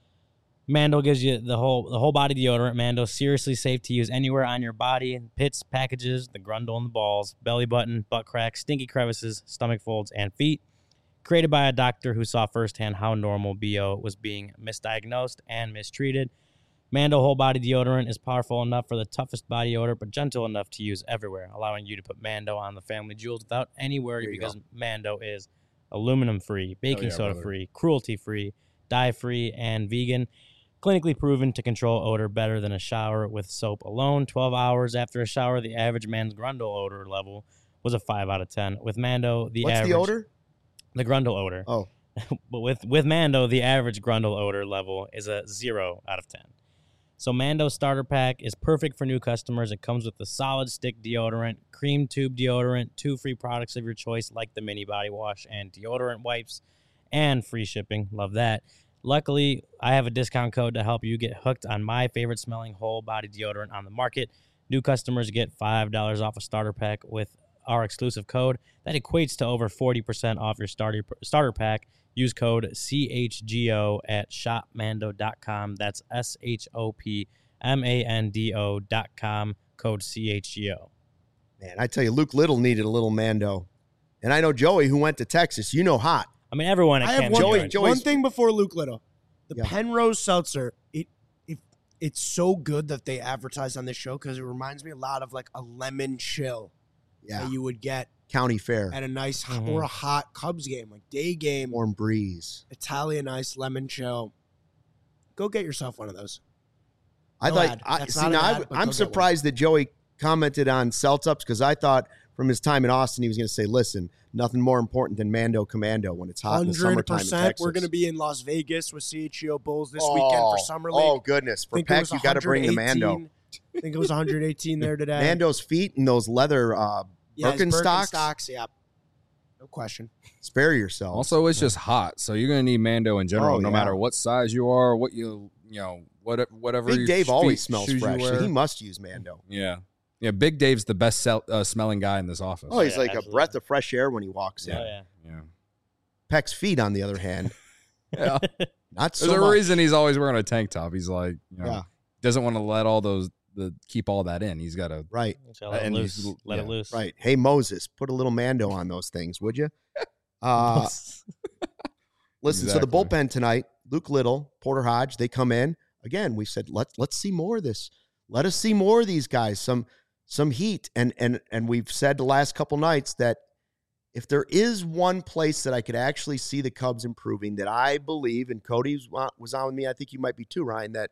Mando gives you the whole the whole body deodorant. Mando, seriously safe to use anywhere on your body. Pits, packages, the grundle and the balls, belly button, butt crack, stinky crevices, stomach folds, and feet. Created by a doctor who saw firsthand how normal B O was being misdiagnosed and mistreated. Mando whole body deodorant is powerful enough for the toughest body odor, but gentle enough to use everywhere, allowing you to put Mando on the family jewels without any worry There you because Mando is aluminum free, baking yeah, soda brother. free, cruelty free, dye free, and vegan. Clinically proven to control odor better than a shower with soap alone. twelve hours after a shower, the average man's grundle odor level was a five out of ten. With Mando, the What's average... the odor? The grundle odor. Oh, But with, with Mando, the average grundle odor level is a zero out of ten. So Mando starter pack is perfect for new customers. It comes with the solid stick deodorant, cream tube deodorant, two free products of your choice like the mini body wash and deodorant wipes, and free shipping. Love that. Luckily, I have a discount code to help you get hooked on my favorite smelling whole body deodorant on the market. New customers get five dollars off a starter pack with our exclusive code. That equates to over forty percent off your starter starter pack. Use code C H G O at shop mando dot com. That's S H O P M A N D O dot com, code C H G O. man, I tell you, Luke Little needed a little Mando. And I know Joey, who went to Texas, you know hot. I mean, everyone at I have Camp one, Joey- Joey, Joey's- one thing before Luke Little. The Yeah. Penrose Seltzer, it, it it's so good that they advertise on this show because it reminds me a lot of like a lemon chill Yeah, that you would get County Fair, at a nice Mhm. or a hot Cubs game, like day game, warm breeze. Italian ice lemon chill. Go get yourself one of those. I No thought. ad. I, That's see not now, an I, ad, but go I'm get one. surprised that Joey commented on Celtups because I thought from his time in Austin he was going to say, "Listen, nothing more important than Mando Commando when it's hot in the Hundred summertime in percent. Texas." We're going to be in Las Vegas with C H G O Bulls this oh, weekend for summer league. Oh goodness, for Think it Peck was you got to bring the Mando. one eighteen. I think it was one hundred eighteen there today. Mando's feet and those leather uh, Yeah, his Birkenstocks. Birkenstocks, yeah. No question. Spare yourself. Also, it's just hot, so you're gonna need Mando in general, Oh, no yeah. matter what size you are, what you you know, what whatever. Big your Dave feet- always smells shoes you fresh, so wear. he must use Mando. Yeah, yeah. Big Dave's the best sell, uh, smelling guy in this office. Oh, he's Yeah, like absolutely. a breath of fresh air when he walks in. Oh, yeah. yeah. Peck's feet, on the other hand, Yeah. not so There's a much. reason he's always wearing a tank top. He's like, you know, Yeah. doesn't want to let all those the keep all that in. He's got to. Right, So let it And loose. he's- Let it yeah, loose. right. Hey Moses, put a little Mando on those things, would you? Uh, listen, so the Exactly. bullpen tonight, Luke Little, Porter Hodge, they come in. Again, we said let let's see more of this. Let us see more of these guys, some some heat. And and and we've said the last couple nights that if there is one place that I could actually see the Cubs improving, that I believe, and Cody was on with me, I think you might be too, Ryan, that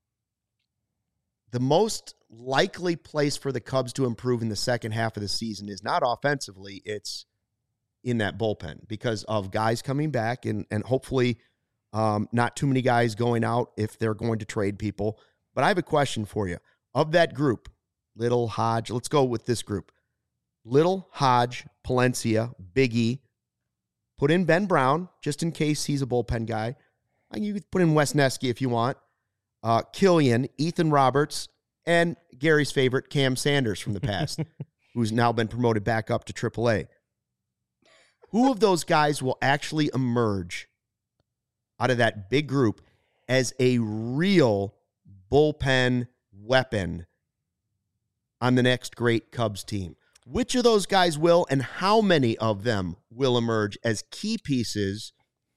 the most likely place for the Cubs to improve in the second half of the season is not offensively, it's in that bullpen because of guys coming back and and hopefully um, not too many guys going out if they're going to trade people. But I have a question for you. Of that group, Little, Hodge, let's go with this group. Little, Hodge, Palencia, Big E, put in Ben Brown, just in case he's a bullpen guy. You could put in Wes Neski if you want. Uh, Killian, Ethan Roberts, and Gary's favorite, Cam Sanders from the past, who's now been promoted back up to triple A. Who of those guys will actually emerge out of that big group as a real bullpen weapon on the next great Cubs team? Which of those guys will, and how many of them will emerge as key pieces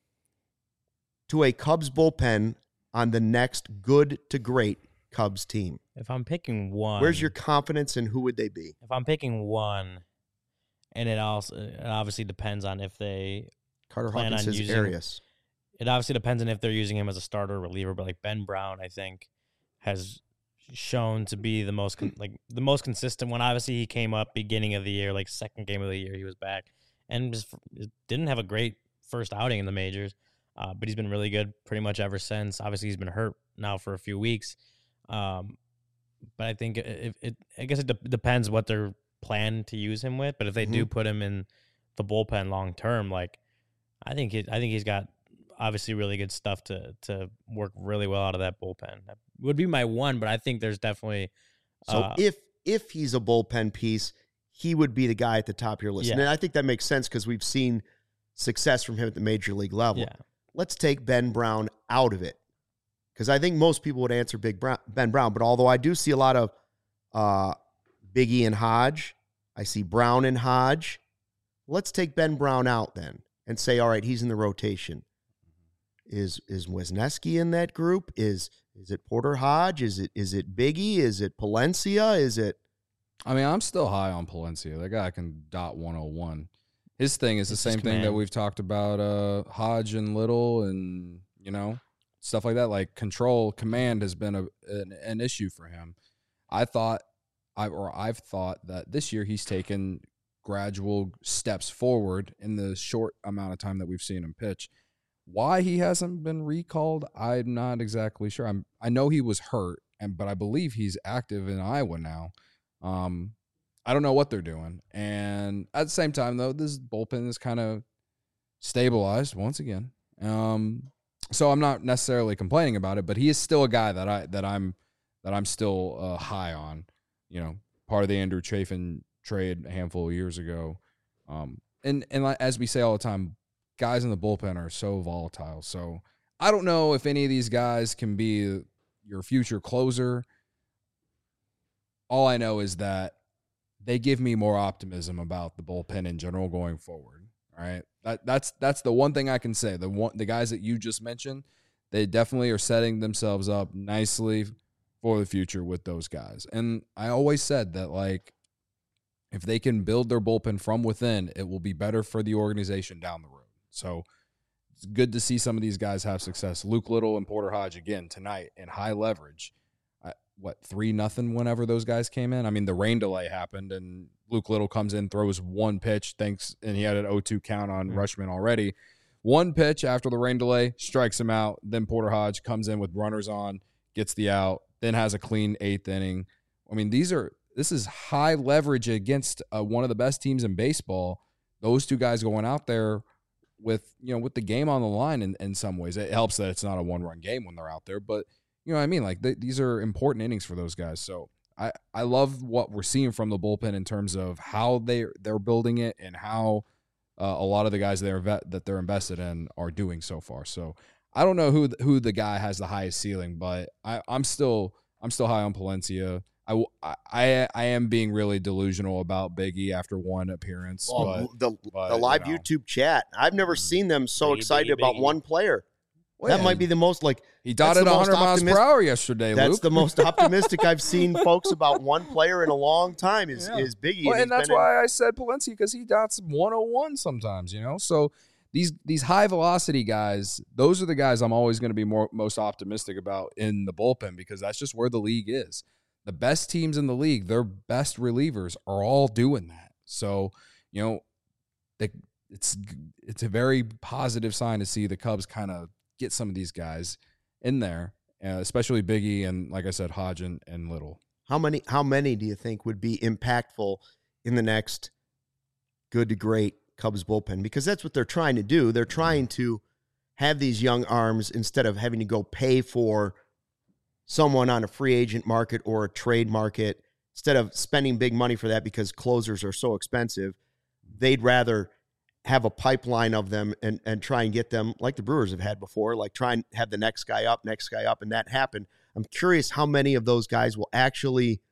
to a Cubs bullpen on the next good to great Cubs team? If I'm picking one, Where's your confidence, and who would they be? If I'm picking one, and it also it obviously depends on if they Carter plan Hawkins on says using, Arias. It obviously depends on if they're using him as a starter or reliever, but like Ben Brown, I think, has shown to be the most con- like the most consistent one. Obviously, he came up beginning of the year, like second game of the year, he was back, and just didn't have a great first outing in the majors, uh, but he's been really good pretty much ever since. Obviously, he's been hurt now for a few weeks, um, but I think it, it I guess it de- depends what they're plan to use him with. But if they mm-hmm. do put him in the bullpen long term, like I think it, I think he's got obviously really good stuff to to work really well out of that bullpen. That would be my one, but I think there's definitely so uh, if if he's a bullpen piece, he would be the guy at the top of your list. Yeah. And I think that makes sense because we've seen success from him at the major league level. Yeah. Let's take Ben Brown out of it, because I think most people would answer Big Brown, Ben Brown. But although I do see a lot of uh, Biggie and Hodge, I see Brown and Hodge. Let's take Ben Brown out then and say, all right, he's in the rotation. Is is Wisniewski in that group? Is is it Porter Hodge? Is it is it Biggie? Is it Palencia? Is it? I mean, I'm still high on Palencia. That guy can dot one oh one. His thing is the It's same his thing that command. we've talked about uh, Hodge and Little and, you know, stuff like that. Like control, command has been a, an, an issue for him. I thought, I or I've thought that this year he's taken gradual steps forward in the short amount of time that we've seen him pitch. Why he hasn't been recalled, I'm not exactly sure. I'm I know he was hurt, and but I believe he's active in Iowa now. Um, I don't know what they're doing. And at the same time, though, this bullpen is kind of stabilized once again. Um, so I'm not necessarily complaining about it, but he is still a guy that I that I'm that I'm still uh, high on. You know, part of the Andrew Chafin trade a handful of years ago. Um, and and like, as we say all the time, guys in the bullpen are so volatile. So I don't know if any of these guys can be your future closer. All I know is that they give me more optimism about the bullpen in general going forward. All right. That that's that's the one thing I can say. The one the guys that you just mentioned, they definitely are setting themselves up nicely for the future with those guys. And I always said that, like, if they can build their bullpen from within, it will be better for the organization down the road. So it's good to see some of these guys have success. Luke Little and Porter Hodge again tonight in high leverage. I, what, three nothing whenever those guys came in? I mean, the rain delay happened, and Luke Little comes in, throws one pitch, thanks, and he had an oh two count on mm-hmm. Rushman already. One pitch after the rain delay, strikes him out. Then Porter Hodge comes in with runners on, gets the out, then has a clean eighth inning. I mean, these are this is high leverage against uh, one of the best teams in baseball. Those two guys going out there with, you know, with the game on the line in, in some ways. It helps that it's not a one-run game when they're out there, but you know what I mean? Like, th- these are important innings for those guys. So I, I love what we're seeing from the bullpen in terms of how they, they're building it and how uh, a lot of the guys they're vet, that they're invested in are doing so far. So I don't know who the, who the guy has the highest ceiling, but I, I'm still I'm still high on Palencia. I, I, I am being really delusional about Biggie after one appearance. Well, but, the but, the live you know. YouTube chat, I've never seen them so Biggie, excited Biggie, about Biggie. one player. Well, that yeah, might be the most, like, he that's dotted the most one hundred miles per optimis- hour yesterday, That's Luke. the most optimistic I've seen folks about one player in a long time is, Yeah. is Biggie. Well, and and he's that's been in- why I said Palencia, because he dots one oh one sometimes, you know? So these these high velocity guys, those are the guys I'm always going to be more most optimistic about in the bullpen, because that's just where the league is. The best teams in the league, their best relievers are all doing that. So, you know, they, it's it's a very positive sign to see the Cubs kind of get some of these guys in there, uh, especially Biggie and, like I said, Hodge and, and Little. How many how many do you think would be impactful in the next good to great Cubs bullpen because that's what they're trying to do. They're trying to have these young arms instead of having to go pay for someone on a free agent market or a trade market. Instead of spending big money for that because closers are so expensive, they'd rather have a pipeline of them and, and try and get them like the Brewers have had before, like try and have the next guy up, next guy up, and that happen. I'm curious how many of those guys will actually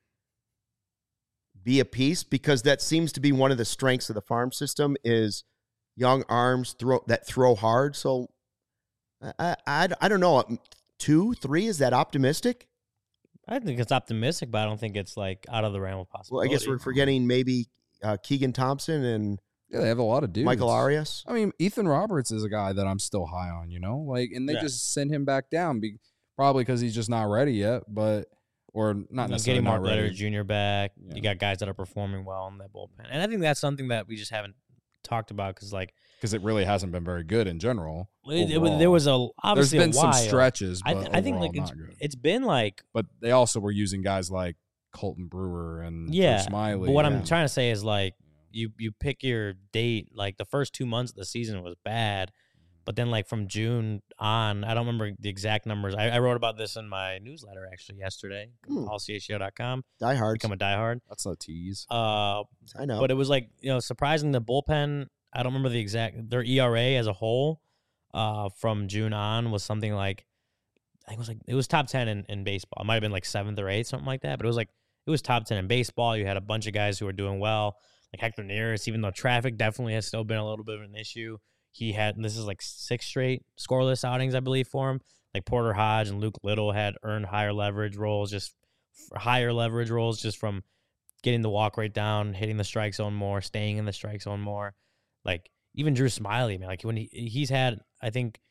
be a piece because that seems to be one of the strengths of the farm system is young arms throw that throw hard. So I, I, I don't know. Two, three, is that optimistic? I think it's optimistic, but I don't think it's like out of the realm of possibility. Well, I guess we're forgetting maybe uh, Keegan Thompson and Yeah, they have a lot of dudes. Michael Arias. I mean, Ethan Roberts is a guy that I'm still high on, you know? Like, and they Yeah. just send him back down, be, probably because he's just not ready yet, but, or not You know, necessarily getting Mark not ready. Letter Junior back. Yeah. You got guys that are performing well in that bullpen. And I think that's something that we just haven't talked about because, like, Because it really hasn't been very good in general. it, it, overall. there was a There's obviously been a some while. stretches, I, but th- I think overall like it's, not good. it's been like But they also were using guys like Colton Brewer and Drew yeah. Smiley. But what and, I'm trying to say is like you you pick your date. Like the first two months of the season was bad, but then like from June on, I don't remember the exact numbers. I, I wrote about this in my newsletter actually yesterday. Hmm. all c h c o dot com. Die Hard. Become a diehard. That's a tease. Uh, I know. But it was like, you know, surprising the bullpen. I don't remember the exact, their E R A as a whole uh, from June on was something like, I think it was like, it was top ten in, in baseball. It might have been like seventh or eighth, something like that. But it was like, it was top ten in baseball. You had a bunch of guys who were doing well, like Hector Neris, even though traffic definitely has still been a little bit of an issue. He had, this is like six straight scoreless outings, I believe, for him. Like Porter Hodge and Luke Little had earned higher leverage roles, just higher leverage roles just from getting the walk rate down, hitting the strike zone more, staying in the strike zone more. Like even Drew Smiley, man, like when he he's had, I think,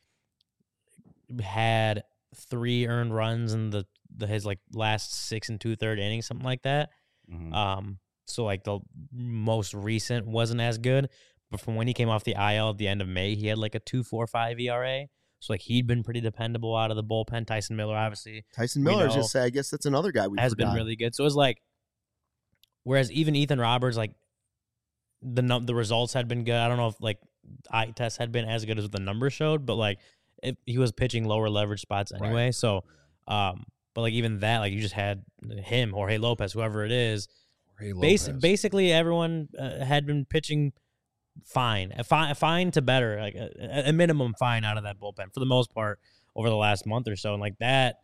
had three earned runs in the, the his like last six and two third innings, something like that. Mhm. Um, so like the most recent wasn't as good, but from when he came off the I L at the end of May, he had like a two four five E R A. So like he'd been pretty dependable out of the bullpen. Tyson Miller, obviously, Tyson we Miller, know, just say, I guess that's another guy we has forgot. been really good. So it was like, whereas even Ethan Roberts, like the num- the results had been good. I don't know if like eye test had been as good as the numbers showed, but like it, he was pitching lower leverage spots anyway. Right. So, um, but like even that, like you just had him, Jorge Lopez, whoever it is. Jorge Bas- Lopez. basically, everyone uh, had been pitching fine, a fine, fine to better, like a, a minimum fine out of that bullpen for the most part over the last month or so, and like that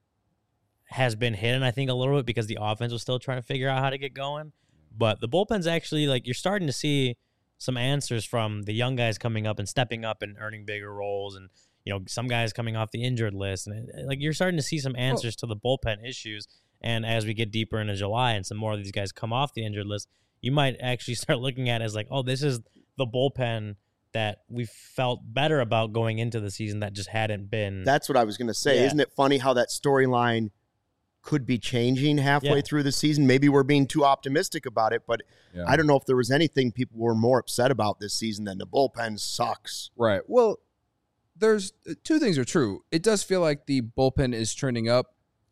has been hidden, I think, a little bit because the offense was still trying to figure out how to get going. But the bullpen's actually, like, you're starting to see some answers from the young guys coming up and stepping up and earning bigger roles, and you know some guys coming off the injured list, and it, like you're starting to see some answers to the bullpen issues. And as we get deeper into July and some more of these guys come off the injured list, you might actually start looking at it as like, oh, this is the bullpen that we felt better about going into the season that just hadn't been. That's what I was going to say. Yeah. Isn't it funny how that storyline could be changing halfway Yeah. through the season? Maybe we're being too optimistic about it, but Yeah. I don't know if there was anything people were more upset about this season than the bullpen sucks. Right. Well, there's two things are true. It does feel like the bullpen is trending up.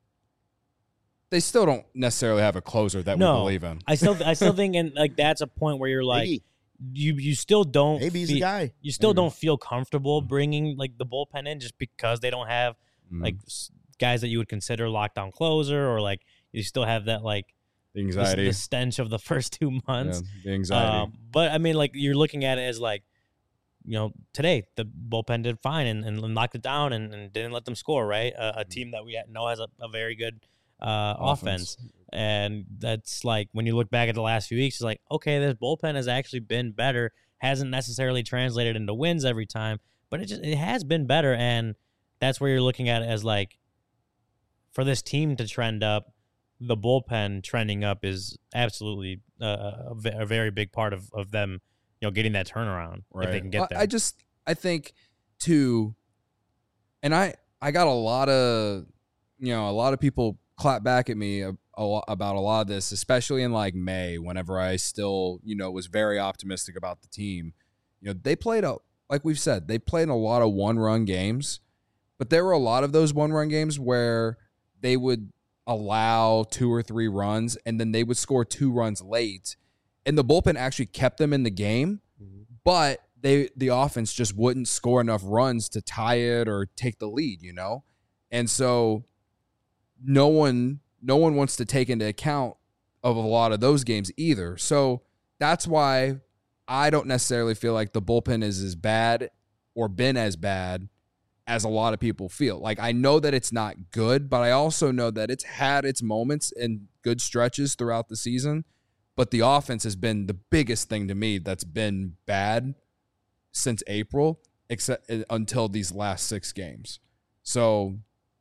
They still don't necessarily have a closer that No. we believe in. I still, I still think, and like that's a point where you're like, maybe, you, you still don't. maybe he's fe- the guy. You still Maybe. don't feel comfortable bringing like the bullpen in just because they don't have Mhm. like s- guys that you would consider lockdown closer, or like you still have that like the the, anxiety, the stench of the first two months. Yeah, the anxiety. Um, but I mean, like you're looking at it as like, you know, today the bullpen did fine and, and locked it down and, and didn't let them score. Right, a, a team that we know has a, a very good uh, offense. And that's like when you look back at the last few weeks, it's like, okay, this bullpen has actually been better. Hasn't necessarily translated into wins every time, but it just it has been better. And that's where you're looking at it as like, for this team to trend up, the bullpen trending up is absolutely uh, a, ve- a very big part of, of them, you know, getting that turnaround if they can get Well, there. I just I think too, and I I got a lot of you know a lot of people clap back at me a, a lot about a lot of this, especially in like May, whenever I still you know was very optimistic about the team. You know, they played a like we've said they played a lot of one run games, but there were a lot of those one run games where they would allow two or three runs and then they would score two runs late, and the bullpen actually kept them in the game. but they the offense just wouldn't score enough runs to tie it or take the lead, you know? And so no one no one wants to take into account of a lot of those games either. So that's why I don't necessarily feel like the bullpen is as bad or been as bad as a lot of people feel. Like, I know that it's not good, but I also know that it's had its moments and good stretches throughout the season. But the offense has been the biggest thing to me that's been bad since April, except until these last six games. So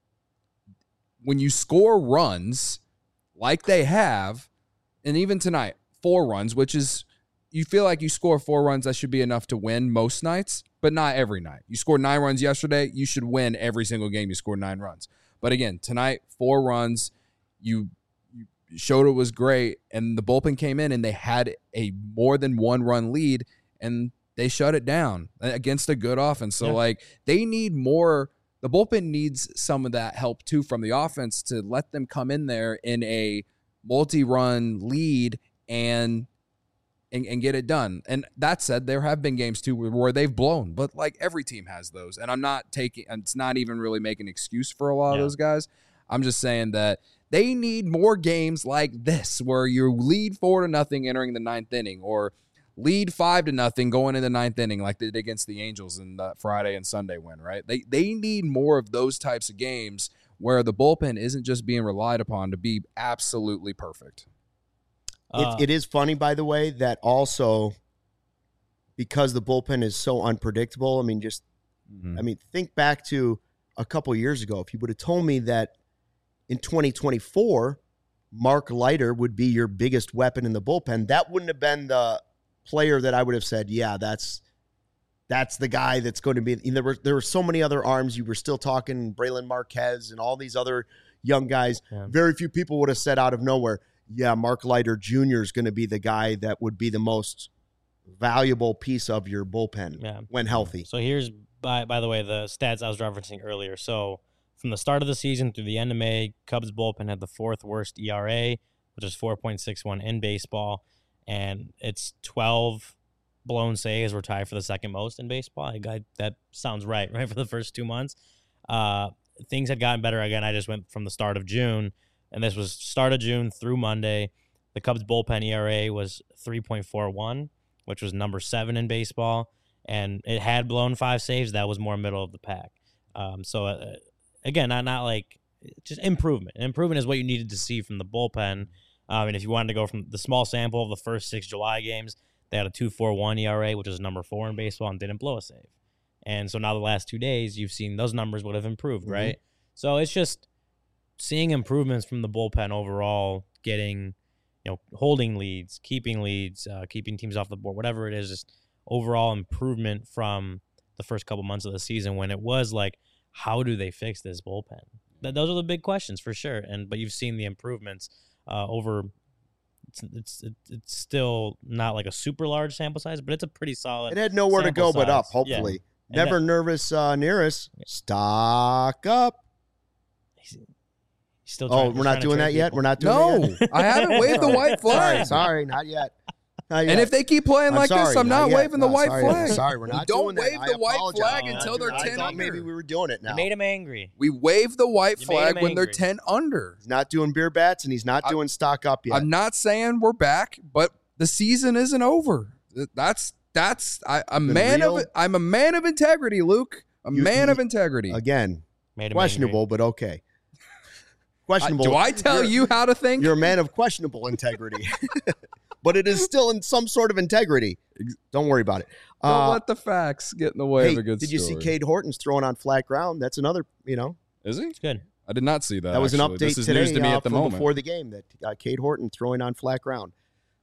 when you score runs like they have, and even tonight, four runs, which is, you feel like you score four runs, that should be enough to win most nights, but not every night. You scored nine runs yesterday, you should win every single game you scored nine runs. But again, tonight, four runs, you, you showed it was great, and the bullpen came in and they had a more than one run lead, and they shut it down against a good offense. So, yeah. like, they need more. The bullpen needs some of that help, too, from the offense to let them come in there in a multi-run lead and, and and get it done. And that said, there have been games, too, where they've blown. But, like, every team has those. And I'm not taking – it's not even really making an excuse for a lot yeah. of those guys. I'm just saying that they need more games like this where you lead four to nothing entering the ninth inning, or – lead five to nothing going in the ninth inning like they did against the Angels in the Friday and Sunday win, right? They they need more of those types of games where the bullpen isn't just being relied upon to be absolutely perfect. Uh, it, it is funny, by the way, that also because the bullpen is so unpredictable, I mean, just, mm-hmm. I mean, think back to a couple years ago. If you would have told me that in twenty twenty-four, Mark Leiter would be your biggest weapon in the bullpen, that wouldn't have been the player that I would have said, yeah, that's that's the guy that's going to be. There were there were so many other arms. You were still talking Braylon Marquez and all these other young guys. Yeah. Very few people would have said out of nowhere, yeah, Mark Leiter Junior is going to be the guy that would be the most valuable piece of your bullpen yeah. when healthy. So here's, by by the way, the stats I was referencing earlier. So from the start of the season through the end of May, Cubs bullpen had the fourth worst E R A, which is four point six one in baseball. And it's twelve blown saves. We're tied for the second most in baseball. I, I, that sounds right, right, for the first two months. Uh, things had gotten better. Again, I just went from the start of June, and this was start of June through Monday. The Cubs' bullpen E R A was three point four one, which was number seven in baseball, and it had blown five saves. That was more middle of the pack. Um, so, uh, again, not, not like just improvement. Improvement is what you needed to see from the bullpen. Um, and if you wanted to go from the small sample of the first six July games, they had a two point four one E R A, which is number four in baseball, and didn't blow a save. And so now the last two days, you've seen those numbers would have improved, mm-hmm. right? So it's just seeing improvements from the bullpen overall, getting, you know, holding leads, keeping leads, uh, keeping teams off the board, whatever it is, just overall improvement from the first couple months of the season when it was like, how do they fix this bullpen? Th- those are the big questions for sure. And but you've seen the improvements. Uh, over, it's, it's it's still not like a super large sample size, but it's a pretty solid. It had nowhere to go size. but up. Hopefully, yeah. Never that, nervous, uh, Nearest. Stock up. He's, he's still. Trying, oh, we're not doing that people. yet. We're not doing no, that yet. I haven't waved the white flag. Sorry, sorry, not yet. And if they keep playing I'm like sorry, this, I'm not, not waving no, the white sorry, flag. Sorry, we're not we doing don't wave that. the I white apologize. flag Oh, until they're I ten thought under. maybe we were doing it now. You made him angry. We wave the white you flag when they're ten under. He's not doing beer bats, and he's not I, doing stock up yet. I'm not saying we're back, but the season isn't over. That's that's I, a man real. of I'm a man of integrity, Luke. A you, man you, of integrity. Again, questionable, angry. But okay. Questionable. Uh, do I tell you how to think? You're a man of questionable integrity. But it is still in some sort of integrity. Don't worry about it. Don't uh, let the facts get in the way hey, of a good did story. Did you see Cade Horton's throwing on flat ground? That's another, you know. Is he? It's good. I did not see that. That was actually. an update this is today news to me uh, at the moment. before the game that uh, Cade Horton throwing on flat ground.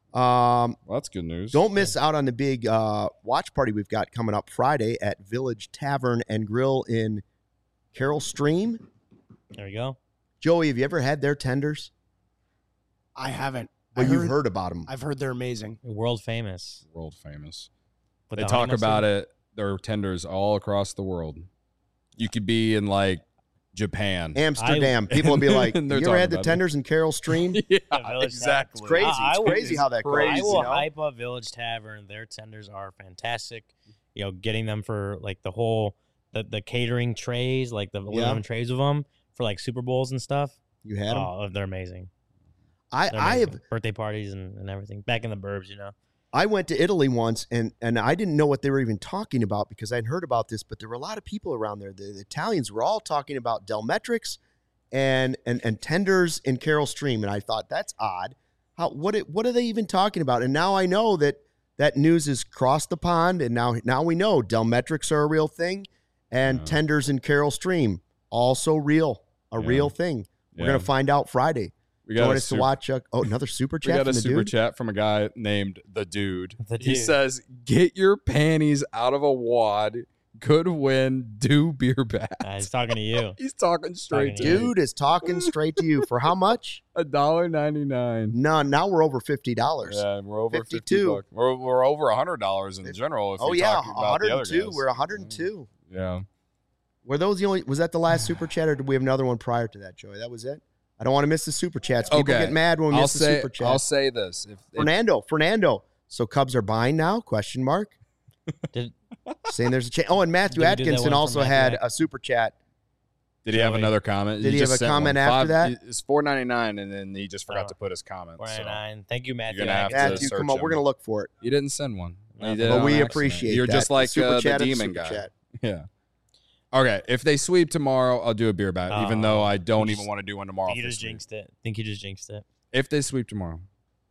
Um, well, that's good news. Don't miss out on the big uh, watch party we've got coming up Friday at Village Tavern and Grill in Carroll Stream. There you go. Joey, have you ever had their tenders? I haven't. Well, I you've heard, heard about them. I've heard they're amazing. World famous. World famous. With they the talk about mustard? it. Their tenders all across the world. You could be in like Japan. Amsterdam. People will be like, you They're ever talking had the about tenders in Carroll Stream? yeah, Village exactly. It's crazy. I- I It's will- crazy how that crazy. I goes. will You know? hype up Village Tavern. Their tenders are fantastic. You know, getting them for like the whole the, the catering trays, like the Yeah. eleven trays of them for like Super Bowls and stuff. You had them? Oh, they're amazing. I, They're I amazing. have. birthday parties and, and everything back in the burbs. You know, I went to Italy once, and and I didn't know what they were even talking about because I'd heard about this, but there were a lot of people around there. The, the Italians were all talking about Delmetrics and and and tenders in Carroll Stream, and I thought that's odd. How what it, what are they even talking about? And now I know that that news has crossed the pond, and now now we know Delmetrics are a real thing, and Yeah. tenders in Carroll Stream also real, a Yeah. real thing. We're Yeah. gonna find out Friday. We got Join a us to super- watch. Uh, oh, another super We chat got from a the super dude. chat from a guy named the dude. The He Dude. says, "Get your panties out of a wad. Good win. Do beer bats." uh, he's talking to you. He's talking straight Talking to to you. you. Dude is talking straight to you. For how much? A dollar ninety nine. No, now we're over fifty dollars. Yeah, we're over fifty fifty-two. bucks. We're, we're over a hundred dollars in general. If Oh you're yeah, talking about the other one hundred two. guys. We're one hundred two. Yeah. Were those the only? Was that the last super chat, or did we have another one prior to that, Joey? That was it. I don't want to miss the super chats. People Okay. get mad when we I'll miss the say super chat. I'll say this. If, if Fernando, Fernando. So Cubs are buying now? Question mark. Did, Saying there's a chance. Oh, and Matthew Did we do that Atkinson one also from Matthew had At- a super chat. did he have Joey. another comment? Did he just have a sent comment one. after Five- that? It's four ninety nine, and then he just forgot Oh. to put his comment. four So ninety-nine. Thank you, Matthew. gonna have to Atkins. Matthew, search come on, him. we're gonna look for it. he didn't send one. He But did it But on we accident. appreciate You're that. just like super uh, the chat and demon super guy. chat. Yeah. Okay. If they sweep tomorrow, I'll do a beer bat, even Oh. though I don't You even just- want to do one tomorrow. think you for just sweep. jinxed it. Think you just jinxed it. If they sweep tomorrow,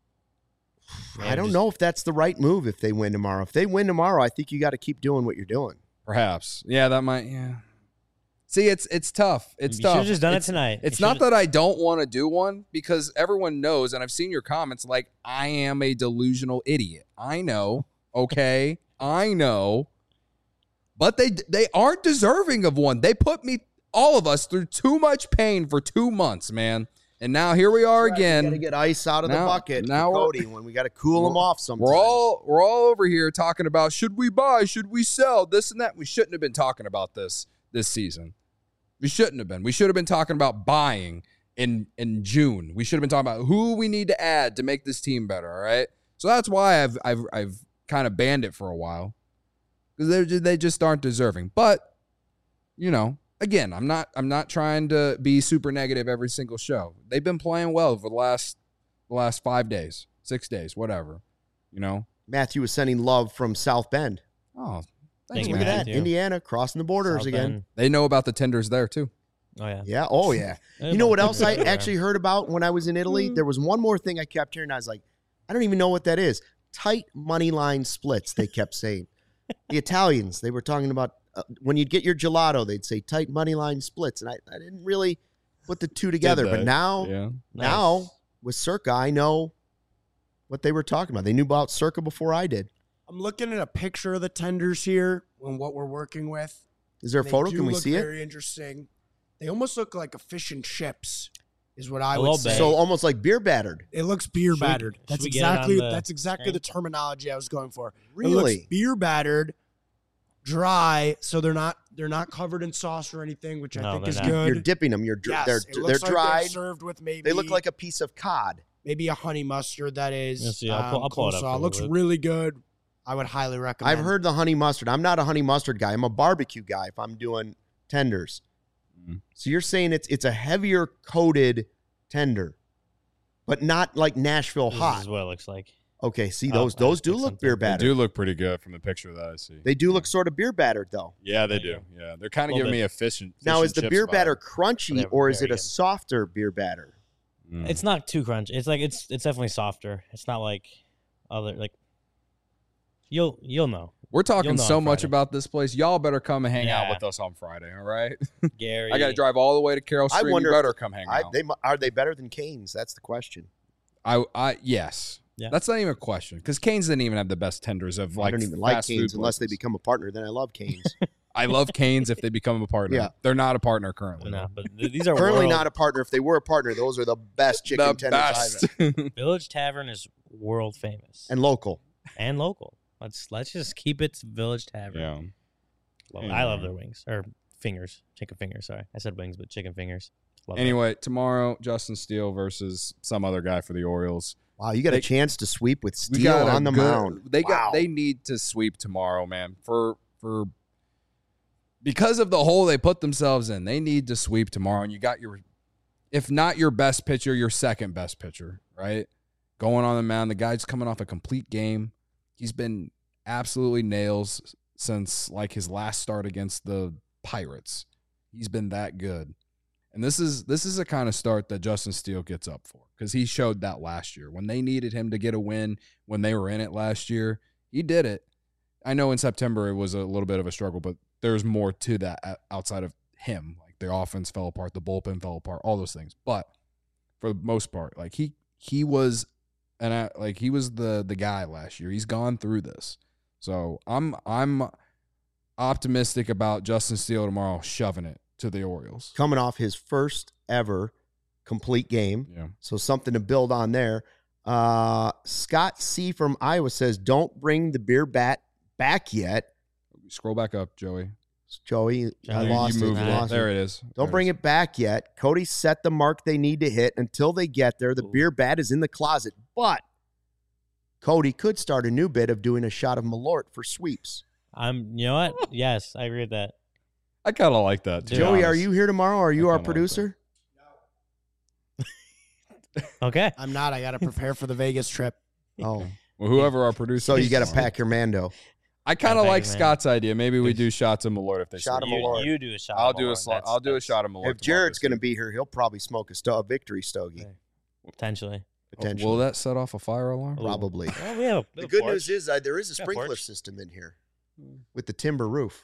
I don't just- know if that's the right move if they win tomorrow. If they win tomorrow, I think you got to keep doing what you're doing. perhaps. Yeah, that might. Yeah. See, it's it's tough. It's you tough. should have just done It's- it tonight. It's You not should've- that I don't want to do one because everyone knows, and I've seen your comments, like, I am a delusional idiot. I know. Okay. I know. But they they aren't deserving of one. They put me, all of us, through too much pain for two months, man. And now here we are We got to again. get ice out of Now- the bucket. now for we're- Cody, when we got to cool them off sometimes. We're all we're all over here talking about should we buy, should we sell, this and that. We shouldn't have been talking about this this season. We shouldn't have been. We should have been talking about buying in in June. We should have been talking about who we need to add to make this team better. All right. So that's why I've I've I've kind of banned it for a while because they they just aren't deserving. But you know, again, I'm not I'm not trying to be super negative every single show. They've been playing well for the last the last five days, six days, whatever. You know. Matthew was sending love from South Bend. Oh, Thank thanks, you, Look at man. that. Matthew. Indiana crossing the borders South again. Bend. They know about the tenders there too. Oh yeah. Yeah. Oh, yeah. Hey, You know what well, else I everywhere. actually heard about when I was in Italy? There was one more thing I kept hearing. I was like, I don't even know what that is. Tight money line splits, they kept saying. The Italians, they were talking about uh, when you'd get your gelato, they'd say tight money line splits. And I, I didn't really put the two together. But they? now, Yeah. now Nice. with Circa, I know what they were talking about. They knew about Circa before I did. I'm looking at a picture of the tenders here and what we're working with. Is there a They photo? do Can we look see it? Very interesting. They almost look like a fish and chips, is what I A would little say. bit. So almost like beer battered. It looks beer Should we- battered. should That's we get it on exactly the that's exactly screen? the terminology I was going for. It Really? looks beer battered, dry, so they're not they're not covered in sauce or anything, which I No, think they're is not. good. You're dipping them. You're dr- yes, they're it they're looks like dried. served with maybe They look like a piece of cod. maybe a honey mustard that is. Let's see, I'll pull- um, I'll pull it up coleslaw. for you, Looks Luke. really good. I would highly recommend. I've heard the honey mustard. I'm not a honey mustard guy. I'm a barbecue guy if I'm doing tenders. Mhm. So you're saying it's it's a heavier coated tender, but not like Nashville This hot. is what it looks like. Okay, see Oh, those I those do picked look something. beer They battered. do look pretty good from the picture that I see. They do look sort of beer battered though. yeah, they There do. you Yeah, they're kind of Little giving bit. me a fish and fish Now and is the chips beer vibe. batter crunchy They're or is very it a good. softer beer batter? Mm. It's not too crunchy. It's like it's it's definitely softer. It's not like other like you'll you'll know. We're talking You'll know so on much Friday. about this place. Y'all better come and hang out Yeah. with us on Friday, all right? Gary. I got to drive all the way to Carroll I Stream. wonder You if- better come hang I, out. they mu- are they better than Canes? That's the question. I, I, yes. Yeah. That's not even a question because Canes didn't even have the best tenders of like I don't even like fast Canes food unless they places. become a partner. Then I love Canes. I love Canes if they become a partner. Yeah. They're not a partner currently. No, but th- these are Currently world, not a partner. If they were a partner, those are the best chicken the tenders I've best. had. Village Tavern is world famous and, And local. local. Let's let's just keep it to Village Tavern. yeah. Love- Yeah. I love their wings or fingers, chicken fingers. Sorry, I said wings, but chicken fingers. Love Anyway, tomorrow, Justin Steele versus some other guy for the Orioles. Wow, you got They- a chance to sweep with We Steele got a on the good- mound. They Wow. got. They need to sweep tomorrow, man. For for because of the hole they put themselves in, they need to sweep tomorrow. And you got your, if not your best pitcher, your second best pitcher, right? Going on the mound. The guy's coming off a complete game. He's been absolutely nails since like his last start against the Pirates. He's been that good. And this is this is the kind of start that Justin Steele gets up for because he showed that last year. When they needed him to get a win, when they were in it last year, he did it. I know in September it was a little bit of a struggle, but there's more to that outside of him. Like the offense fell apart, the bullpen fell apart, all those things. But for the most part, like he he was and I, like he was the the guy last year. He's gone through this. So I'm I'm optimistic about Justin Steele tomorrow shoving it to the Orioles. Coming off his first ever complete game. Yeah. So something to build on there. Uh, Scott C. from Iowa says, don't bring the beer bat back yet. Scroll back up, Joey. Joey, I Joey, lost you it. moved I it. lost There it. it is. Don't bring it back yet. Cody set the mark they need to hit. Until they get there, the Ooh. beer bat is in the closet. But Cody could start a new bit of doing a shot of Malort for sweeps. I'm. You know what? Yes, I agree with that. I kind of like that, too. To be Joey, are honest. you here tomorrow? Are you I our kinda like producer? Okay. I'm not. I got to prepare for the Vegas trip. Oh, Well, whoever our producer so you is got to tomorrow. pack your Mando. I kind of Gotta pack like it, man. Scott's idea. Maybe we do shots of Malort if they Shot sleep. of You, Malort. you do a shot. I'll of do a Malort. sli- That's- I'll do a that's shot of Malort. If Jared's going to be here, he'll probably smoke a, sto- a victory stogie, Okay. Potentially. potentially. Will that set off a fire alarm? Ooh. Probably. Well, we have a, we The have a good porch. news is uh, there is a Yeah, sprinkler porch. system in here with the timber roof.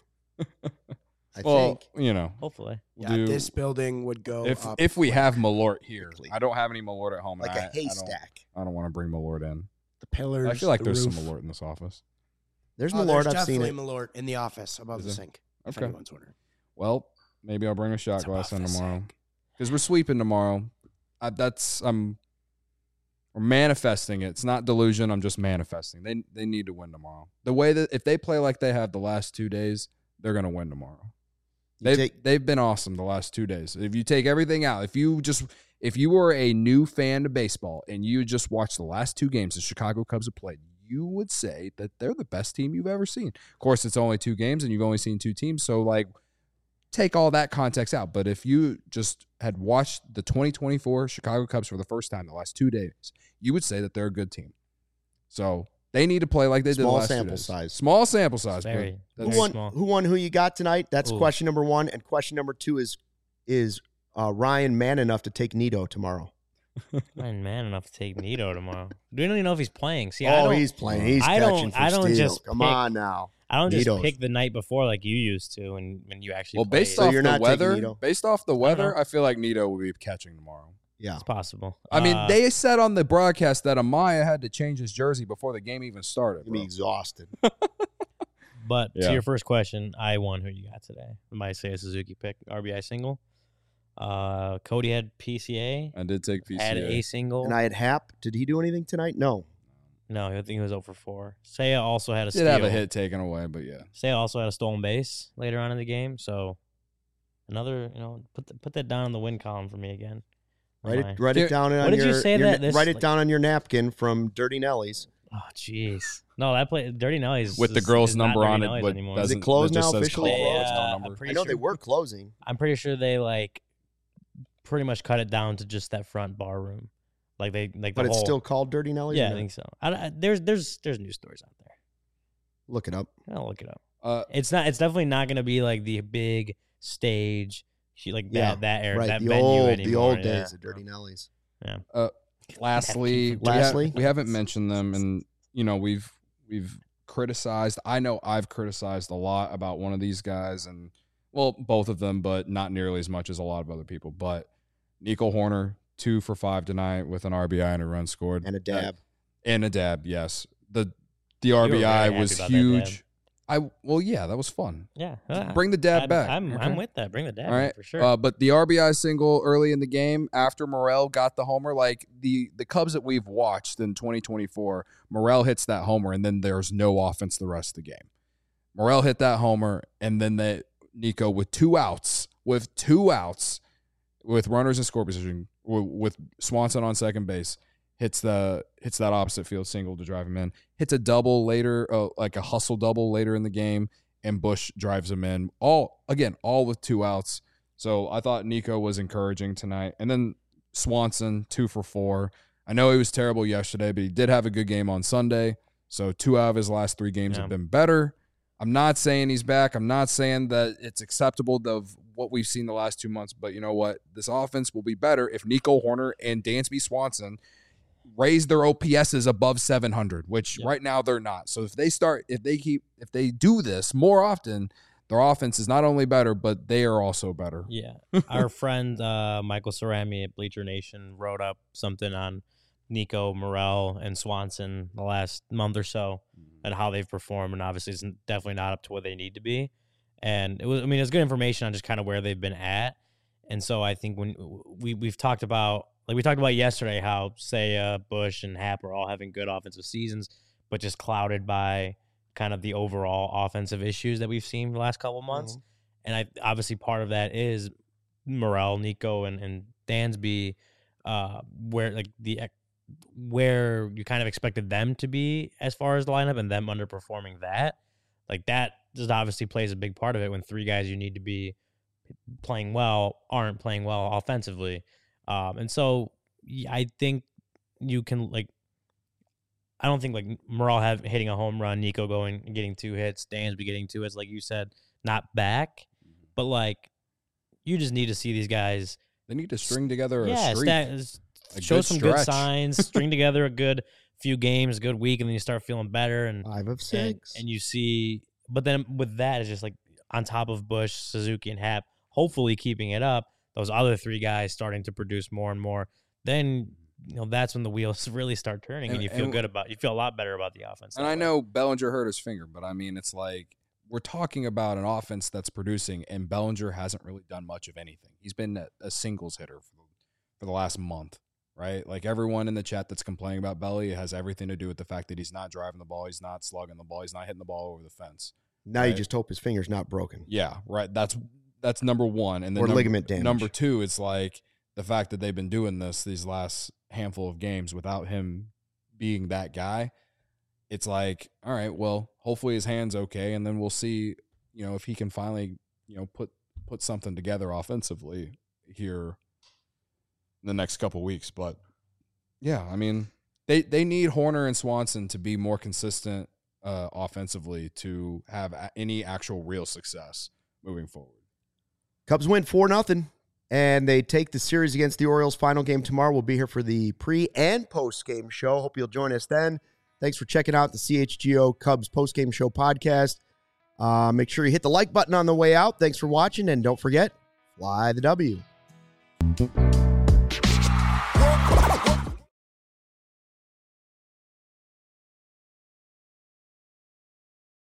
I Well, think. you know, Hopefully. we'll Yeah, do, this building would go if up. if we have Malort here. quickly. I don't have any Malort at home. and Like I, a haystack. I don't, I don't want to bring Malort in. the pillars. I feel like the there's roof. some Malort in this office. There's Oh, Malort. there's I've seen definitely it. Malort in the office above Is the there? sink. If Okay. anyone's wondering. Well, maybe I'll bring a shot It's glass in above the tomorrow sink. because we're sweeping tomorrow. I, that's I'm we're manifesting it. It's not delusion. I'm just manifesting. They they need to win tomorrow. The way that if they play like they have the last two days, they're gonna win tomorrow. You They've take- they've been awesome the last two days. If you take everything out, if you just if you were a new fan to baseball and you just watched the last two games the Chicago Cubs have played, you would say that they're the best team you've ever seen. Of course, it's only two games and you've only seen two teams, so like take all that context out. But if you just had watched the twenty twenty-four Chicago Cubs for the first time the last two days, you would say that they're a good team. So they need to play like they did the Small last two sample days. size. Small sample size. Very. but Who that's- Very won? small. Who won? Who you got tonight? That's Ooh. question number one. And question number two is is uh, Ryan man enough to take Nito tomorrow? I'm man enough to take Nito tomorrow. Do you don't even know if he's playing? See, I oh, don't, he's playing. He's I don't- catching for I don't Steele. just Come pick- on now. I don't just Nito's- pick the night before like you used to when, when you actually Well, play based it. So off you're the not taking weather, Nito? based off the weather, know. I feel like Nito will be catching tomorrow. Yeah. It's possible. I mean, Uh, they said on the broadcast that Amaya had to change his jersey before the game even started. He'll be bro. exhausted. But Yeah. to your first question, I won. Who you got today? I might say a Suzuki pick, R B I single. Uh, Cody had P C A, I did take P C A. had a single. And I had Hap. Did he do anything tonight? No. no, I think he was over four. Saya also had a Did steal. have a hit taken away, but yeah. Saya also had a stolen base later on in the game. So another, you know, put the, put that down in the win column for me again. Write My- it. Write Here- it down on What did you your. say your- that this- write it like- down on your napkin from Dirty Nelly's. Oh, jeez. No, that play Dirty Nelly's With the is- girl's is not number Dirty on it, Nelly's but anymore. doesn't- Is it closed that just now says officially? closed, They, no uh, number. I'm I pretty know sure, they were closing. I'm pretty sure they like pretty much cut it down to just that front bar room. Like they like the But it's whole, still called Dirty Nelly's? yeah, or I not? think so. I, I, there's there's there's news stories out there. Look it up. I'll look it up. Uh, It's not. It's definitely not going to be like the big stage, she- like Yeah, that that era, right. that the venue old, anymore. the old yeah. days of Dirty Nelly's. lastly, we, Lastly? have, we haven't mentioned them, and you know we've we've criticized. I know I've criticized a lot about one of these guys, and well, both of them, but not nearly as much as a lot of other people. But Nico Horner, two for five tonight with an R B I and a run scored, And a dab. and a dab. Yes, the the were R B I very was happy about that dab. huge. I well, yeah, that was fun. Yeah, uh, Bring the dab I'm, back. I'm okay? I'm with that. Bring the dab All right, back for sure. Uh, but the R B I single early in the game after Morel got the homer, like the the Cubs that we've watched in twenty twenty-four, Morel hits that homer, and then there's no offense the rest of the game. Morel hit that homer, and then they Nico with two outs, with two outs, with runners in score position, with Swanson on second base, hits the hits that opposite field single to drive him in, hits a double later, uh, like a hustle double later in the game, and Bush drives him in. All again, all with two outs. So I thought Nico was encouraging tonight. And then Swanson, two for four. I know he was terrible yesterday, but he did have a good game on Sunday. So two out of his last three games yeah. have been better. I'm not saying he's back. I'm not saying that it's acceptable of what we've seen the last two months. But you know what? This offense will be better if Nico Hoerner and Dansby Swanson raise their O P S's above seven hundred, which yep. right now they're not. So if they start, if they keep, if they do this more often, their offense is not only better, but they are also better. Yeah. Our friend uh, Michael Cerami at Bleacher Nation wrote up something on Nico, Morel, and Swanson the last month or so and how they've performed. And obviously it's definitely not up to where they need to be. And it was, I mean, it's good information on just kind of where they've been at. And so I think when we, we've talked about, like we talked about yesterday, how say uh, Bush and Happ are all having good offensive seasons, but just clouded by kind of the overall offensive issues that we've seen the last couple of months. Mm-hmm. And I obviously part of that is Morel, Nico, and, and Dansby, uh, where like the where you kind of expected them to be as far as the lineup and them underperforming that. Like that just obviously plays a big part of it when three guys you need to be playing well aren't playing well offensively. Um, and so I think you can like I don't think like Morel have hitting a home run, Nico going and getting two hits, Dansby getting two hits, like you said, not back. But like you just need to see these guys. They need to string together yeah, a streak. Sta- a show good some stretch. Good signs, string together a good few games, a good week, and then you start feeling better. And five of six. And, and you see, but then with that, it's just like on top of Bush, Suzuki, and Happ, hopefully keeping it up, those other three guys starting to produce more and more, then you know that's when the wheels really start turning and, and you feel and, good about you feel a lot better about the offense. And I way. know Bellinger hurt his finger, but I mean it's like we're talking about an offense that's producing, and Bellinger hasn't really done much of anything. He's been a, a singles hitter for, for the last month, right? Like everyone in the chat that's complaining about Belly, it has everything to do with the fact that he's not driving the ball, he's not slugging the ball, he's not hitting the ball over the fence. Now right? You just hope his finger's not broken. Yeah, right. That's that's number one, and then or number, ligament damage. Number two, it's like the fact that they've been doing this these last handful of games without him being that guy. It's like, all right, well, hopefully his hand's okay, and then we'll see, you know, if he can finally, you know, put put something together offensively here in the next couple weeks. But yeah, I mean, they they need Hoerner and Swanson to be more consistent uh, offensively to have a- any actual real success moving forward. Cubs win four nothing, and they take the series against the Orioles. Final game tomorrow. We'll be here for the pre and post game show. Hope you'll join us then. Thanks for checking out the C H G O Cubs post-game show podcast. Uh, make sure you hit the like button on the way out. Thanks for watching, and don't forget, fly the W.